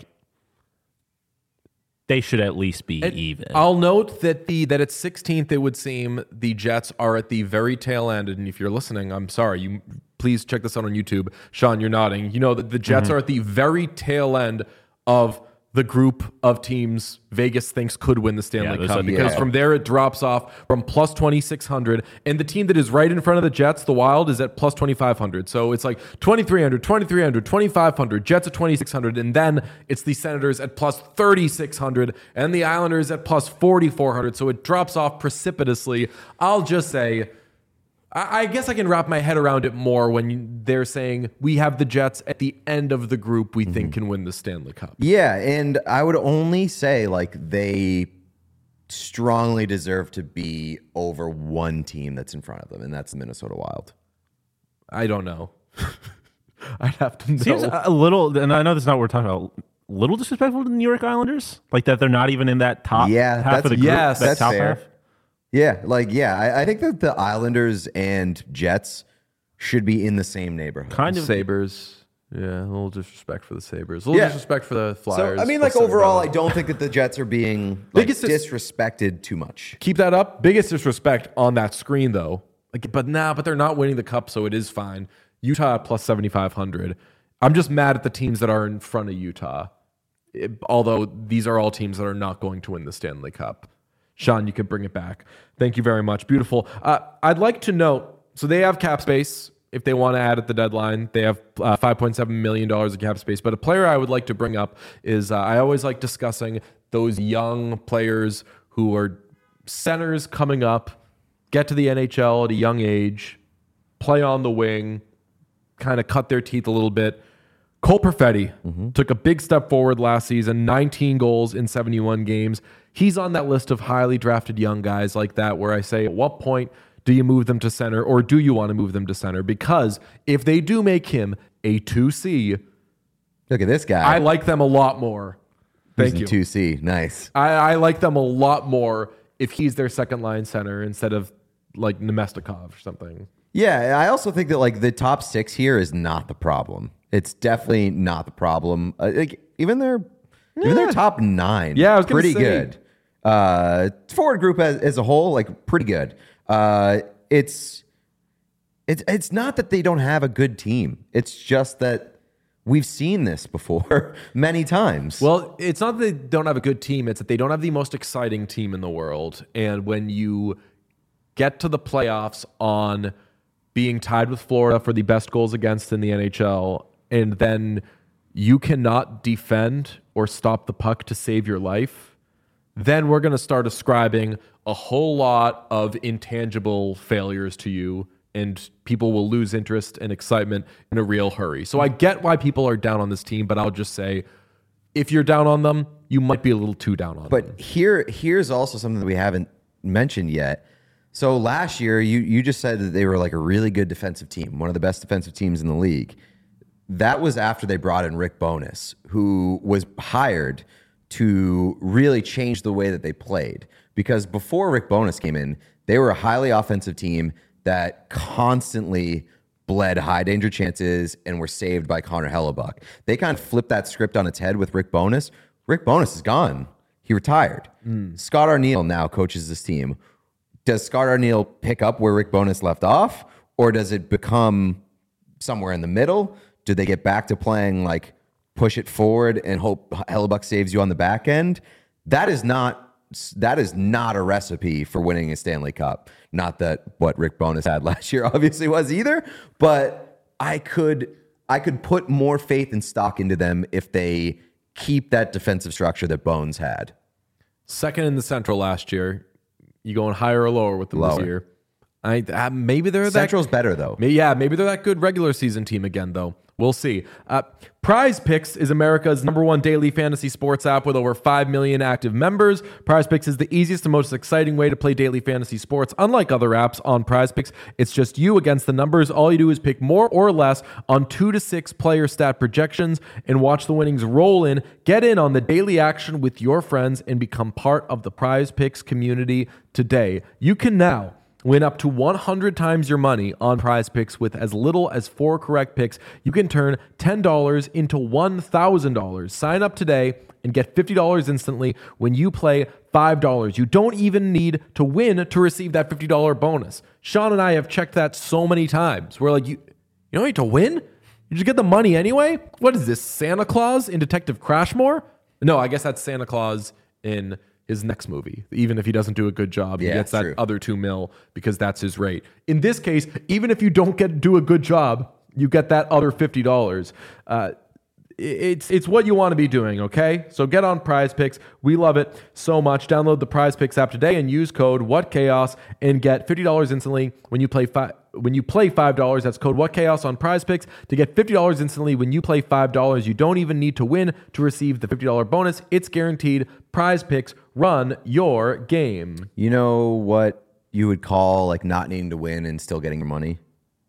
S2: they should at least be even.
S1: I'll note that at 16th, it would seem the Jets are at the very tail end. And if you're listening, I'm sorry. You please check this out on YouTube. Sean, you're nodding. You know that the Jets are at the very tail end of the group of teams Vegas thinks could win the Stanley Cup, because from there it drops off from plus 2,600, and the team that is right in front of the Jets, the Wild, is at plus 2,500. So it's like 2,300, 2,500, Jets at 2,600, and then it's the Senators at plus 3,600 and the Islanders at plus 4,400. So it drops off precipitously. I'll just say, I guess I can wrap my head around it more when they're saying we have the Jets at the end of the group we think can win the Stanley Cup.
S3: Yeah, and I would only say like they strongly deserve to be over one team that's in front of them, and that's the Minnesota Wild.
S1: I don't know. I'd have to know.
S2: Seems a little, and I know that's not what we're talking about, a little disrespectful to the New York Islanders? Like that they're not even in that top half of the group?
S1: yes,
S2: that
S3: that's
S2: top
S3: fair.
S2: half?
S3: Yeah, I think that the Islanders and Jets should be in the same neighborhood.
S2: Kind of.
S1: Sabres. Yeah, a little disrespect for the Sabres. A little disrespect for the Flyers.
S3: So, I mean, like, overall, I don't think that the Jets are being like,
S1: Biggest
S3: disrespected too much.
S1: Keep that up. Biggest disrespect on that screen, though. Like, but they're not winning the cup, so it is fine. Utah at plus 7,500. I'm just mad at the teams that are in front of Utah. Although these are all teams that are not going to win the Stanley Cup. Sean, you can bring it back. Thank you very much. Beautiful. I'd like to note, so they have cap space. If they want to add at the deadline, they have $5.7 million of cap space. But a player I would like to bring up is I always like discussing those young players who are centers coming up, get to the NHL at a young age, play on the wing, kind of cut their teeth a little bit. Cole Perfetti took a big step forward last season, 19 goals in 71 games. He's on that list of highly drafted young guys like that where I say, at what point do you move them to center, or do you want to move them to center? Because if they do make him a 2C,
S3: Look at this guy.
S1: I like them a lot more. Thank you.
S3: 2C. Nice.
S1: I like them a lot more if he's their second line center instead of like Nemestikov or something.
S3: Yeah, I also think that like the top 6 here is not the problem. It's definitely not the problem. Like even their top 9,
S1: Yeah, I was gonna
S3: pretty
S1: say.
S3: good. Forward group as a whole, like pretty good. It's not that they don't have a good team. It's just that we've seen this before many times.
S1: Well, it's not that they don't have a good team. It's that they don't have the most exciting team in the world. And when you get to the playoffs on being tied with Florida for the best goals against in the NHL, and then you cannot defend or stop the puck to save your life, then we're going to start ascribing a whole lot of intangible failures to you, and people will lose interest and excitement in a real hurry. So I get why people are down on this team, but I'll just say, if you're down on them, you might be a little too down on them.
S3: But here's also something that we haven't mentioned yet. So last year, you just said that they were like a really good defensive team, one of the best defensive teams in the league. That was after they brought in Rick Bowness, who was hired to really change the way that they played. Because before Rick Bowness came in, they were a highly offensive team that constantly bled high danger chances and were saved by Connor Hellebuck. They kind of flipped that script on its head with Rick Bowness. Rick Bowness is gone. He retired. Scott Arniel now coaches this team. Does Scott Arniel pick up where Rick Bowness left off, or does it become somewhere in the middle? Do they get back to playing like push it forward and hope Hellebuck saves you on the back end? That is not a recipe for winning a Stanley Cup. Not that what Rick Bowness had last year obviously was either, but I could put more faith and stock into them if they keep that defensive structure that Bones had.
S1: Second in the Central last year. You going higher or lower with them
S3: Lower.
S1: this year? Maybe they're
S3: Central's better though.
S1: maybe they're that good regular season team again, though. We'll see. Prize Picks is America's #1 daily fantasy sports app with over 5 million active members. Prize Picks is the easiest and most exciting way to play daily fantasy sports. Unlike other apps, on Prize Picks, it's just you against the numbers. All you do is pick more or less on 2 to 6 player stat projections and watch the winnings roll in. Get in on the daily action with your friends and become part of the Prize Picks community today. You can now win up to 100 times your money on Prize Picks with as little as 4 correct picks. You can turn $10 into $1,000. Sign up today and get $50 instantly when you play $5. You don't even need to win to receive that $50 bonus. Sean and I have checked that so many times. We're like, you don't need to win? You just get the money anyway? What is this, Santa Claus in Detective Crashmore? No, I guess that's Santa Claus in his next movie. Even if he doesn't do a good job, he gets that
S3: true.
S1: other $2 million because that's his rate. In this case, even if you don't do a good job, you get that other $50. It's what you want to be doing, okay? So get on Prize Picks. We love it so much. Download the Prize Picks app today and use code WhatChaos and get $50 instantly when you play $5. That's code WhatChaos on Prize Picks to get $50 instantly when you play $5. You don't even need to win to receive the $50 bonus. It's guaranteed. Prize Picks, run your game.
S3: You know what you would call like not needing to win and still getting your money?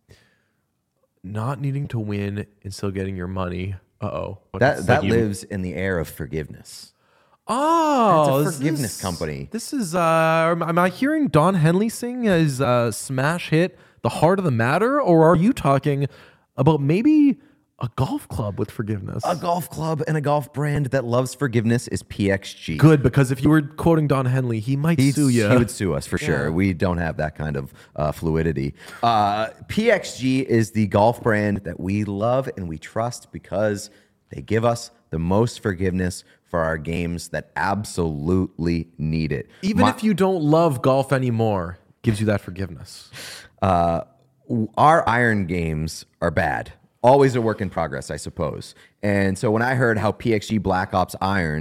S1: Not needing to win and still getting your money. Uh-oh.
S3: That lives in the air of forgiveness.
S1: Oh,
S3: It's a forgiveness company.
S1: This is, am I hearing Don Henley sing his smash hit, The Heart of the Matter? Or are you talking about maybe a golf club with forgiveness?
S3: A golf club and a golf brand that loves forgiveness is PXG.
S1: Good, because if you were quoting Don Henley, he might sue you.
S3: He would sue us for sure. We don't have that kind of fluidity. PXG is the golf brand that we love and we trust because they give us the most forgiveness for our games that absolutely need it.
S1: Even if you don't love golf anymore, gives you that forgiveness.
S3: Our iron games are bad. Always a work in progress, I suppose. And so when I heard how PXG Black Ops irons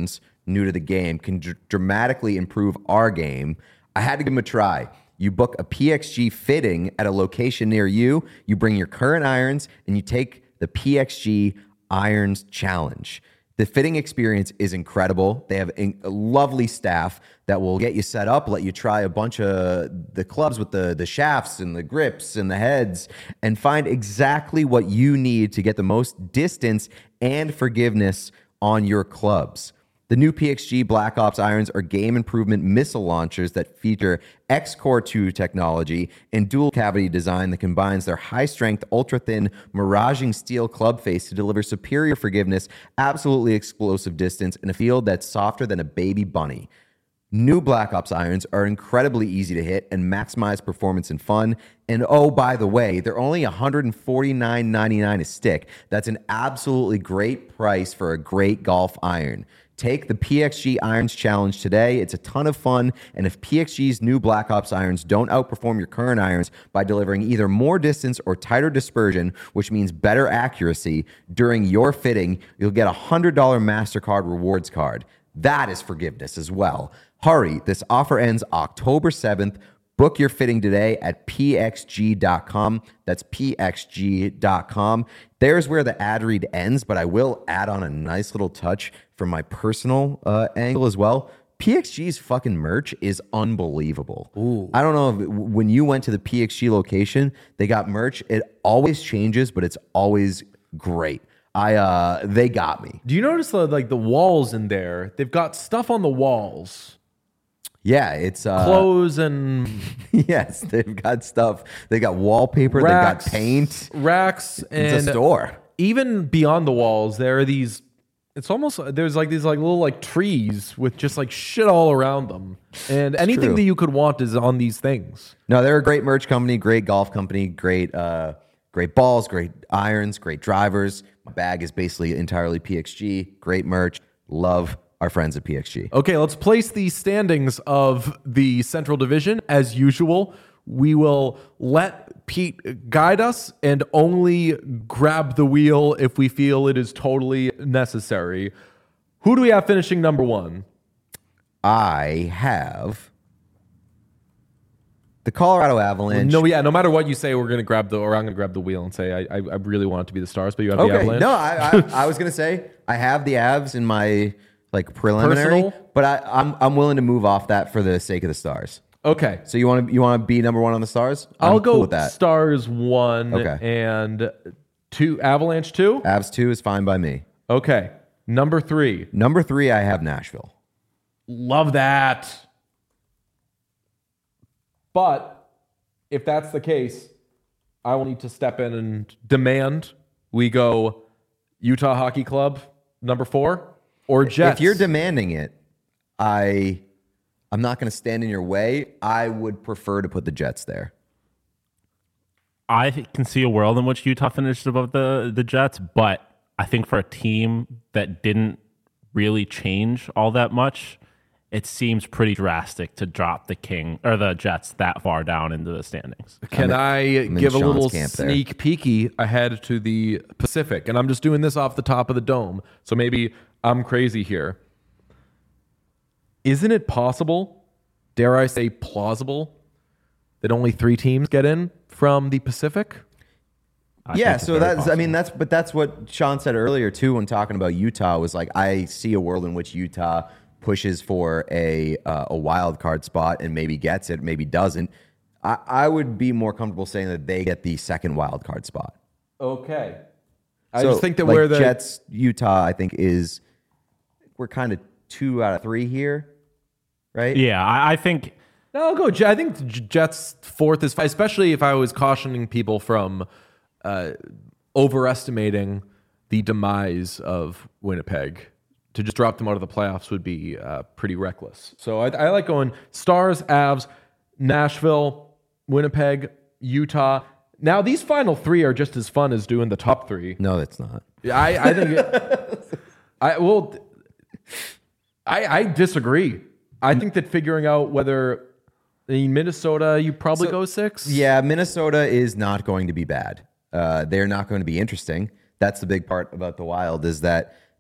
S3: new to the game can dramatically improve our game, I had to give them a try. You book a PXG fitting at a location near you, you bring your current irons, and you take the PXG Irons Challenge. The fitting experience is incredible. They have a lovely staff that will get you set up, let you try a bunch of the clubs with the shafts and the grips and the heads, and find exactly what you need to get the most distance and forgiveness on your clubs. The new PXG Black Ops irons are game improvement missile launchers that feature X-Core 2 technology and dual cavity design that combines their high-strength, ultra-thin, miraging steel club face to deliver superior forgiveness, absolutely explosive distance, and a field that's softer than a baby bunny. New Black Ops irons are incredibly easy to hit and maximize performance and fun. And oh, by the way, they're only $149.99 a stick. That's an absolutely great price for a great golf iron. Take the PXG Irons Challenge today. It's a ton of fun, and if PXG's new Black Ops irons don't outperform your current irons by delivering either more distance or tighter dispersion, which means better accuracy, during your fitting, you'll get a $100 MasterCard rewards card. That is forgiveness as well. Hurry, this offer ends October 7th. Book your fitting today at pxg.com. That's pxg.com. There's where the ad read ends, but I will add on a nice little touch from my personal angle as well. PXG's fucking merch is unbelievable. Ooh. I don't know if when you went to the PXG location, they got merch. It always changes, but it's always great. They got me.
S1: Do you notice the walls in there? They've got stuff on the walls.
S3: Yeah, it's
S1: clothes and
S3: yes, they've got stuff. They got wallpaper.
S1: Racks,
S3: they got paint,
S1: racks, and
S3: it's a store.
S1: Even beyond the walls, there are these. It's almost there's these little trees with just shit all around them, and anything that you could want is on these things.
S3: No, they're a great merch company, great golf company, great balls, great irons, great drivers. My bag is basically entirely PXG. Great merch. Love our friends at PXG.
S1: Okay, let's place the standings of the Central Division. As usual, we will let Pete guide us and only grab the wheel if we feel it is totally necessary. Who do we have finishing number one?
S3: I have the Colorado Avalanche.
S1: No matter what you say, I'm going to grab the wheel and say I really want it to be the Stars, but you have the Avalanche.
S3: No, I was going to say I have the Avs in my preliminary,
S1: personal?
S3: But I'm willing to move off that for the sake of the Stars.
S1: Okay.
S3: So you want to be number one on the Stars?
S1: I'll go
S3: cool with that.
S1: Stars 1 and 2, Avalanche 2?
S3: Avs 2 is fine by me.
S1: Okay. Number 3.
S3: Number 3, I have Nashville.
S1: Love that. But if that's the case, I will need to step in and demand we go Utah Hockey Club number 4 or Jets.
S3: If you're demanding it, I'm not going to stand in your way. I would prefer to put the Jets there.
S2: I can see a world in which Utah finished above the Jets, but I think for a team that didn't really change all that much, it seems pretty drastic to drop the Jets that far down into the standings.
S1: Can I give a little sneak peeky ahead to the Pacific? And I'm just doing this off the top of the dome, so maybe I'm crazy here. Isn't it possible, dare I say plausible, that only 3 teams get in from the Pacific?
S3: That's what Sean said earlier too when talking about Utah was I see a world in which Utah pushes for a wild card spot and maybe gets it, maybe doesn't. I would be more comfortable saying that they get the second wild card spot.
S1: Okay. I just think that where the
S3: Jets, Utah, I think we're kind of 2 out of 3 here, right?
S2: Yeah, I think.
S1: No, I'll go. I think Jets 4th is fine, especially if I was cautioning people from overestimating the demise of Winnipeg. To just drop them out of the playoffs would be pretty reckless. So I like going Stars, Avs, Nashville, Winnipeg, Utah. Now, these final 3 are just as fun as doing the top 3.
S3: No, it's not.
S1: I think I disagree. I think that figuring out whether in Minnesota, you probably go 6.
S3: Yeah, Minnesota is not going to be bad. They're not going to be interesting. That's the big part about the Wild is that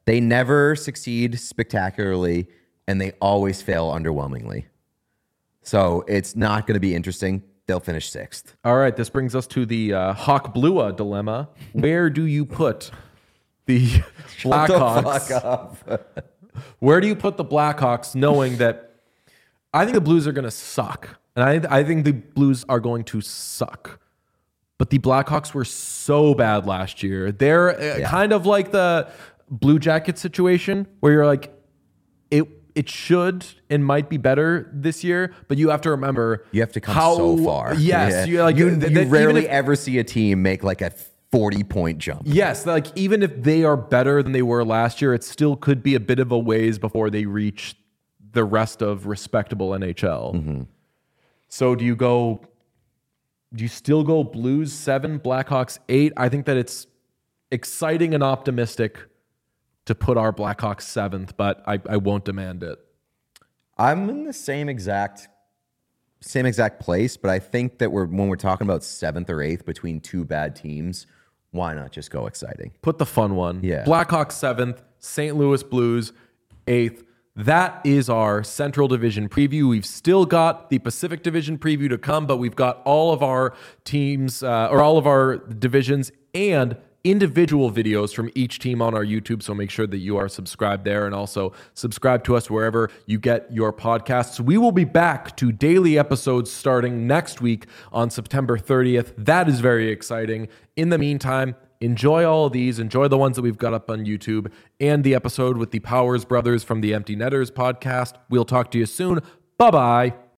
S3: They never succeed spectacularly, and they always fail underwhelmingly. So it's not going to be interesting. They'll finish 6th.
S1: All right, this brings us to the Hawk Blua dilemma. Where do you put the Blackhawks? Where do you put the Blackhawks, knowing that I think the Blues are going to suck, and I think the Blues are going to suck. But the Blackhawks were so bad last year. They're kind of like the Blue Jackets situation, where you're like, it should and might be better this year, but you have to remember
S3: you have to come so far.
S1: Yes,
S3: you rarely ever see a team make like a 40-point jump.
S1: Yes, like even if they are better than they were last year, it still could be a bit of a ways before they reach the rest of respectable NHL.
S3: Mm-hmm.
S1: So do you still go Blues 7, Blackhawks 8? I think that it's exciting and optimistic to put our Blackhawks 7th, but I won't demand it.
S3: I'm in the same exact place, but I think that when we're talking about 7th or 8th between two bad teams, why not just go exciting?
S1: Put the fun one.
S3: Yeah.
S1: Blackhawks 7th, St. Louis Blues 8th. That is our Central Division preview. We've still got the Pacific Division preview to come, but we've got all of our teams or all of our divisions and individual videos from each team on our YouTube. So make sure that you are subscribed there and also subscribe to us wherever you get your podcasts. We will be back to daily episodes starting next week on September 30th. That is very exciting. In the meantime, enjoy all of these. Enjoy the ones that we've got up on YouTube and the episode with the Powers brothers from the Empty Netters podcast. We'll talk to you soon. Bye-bye.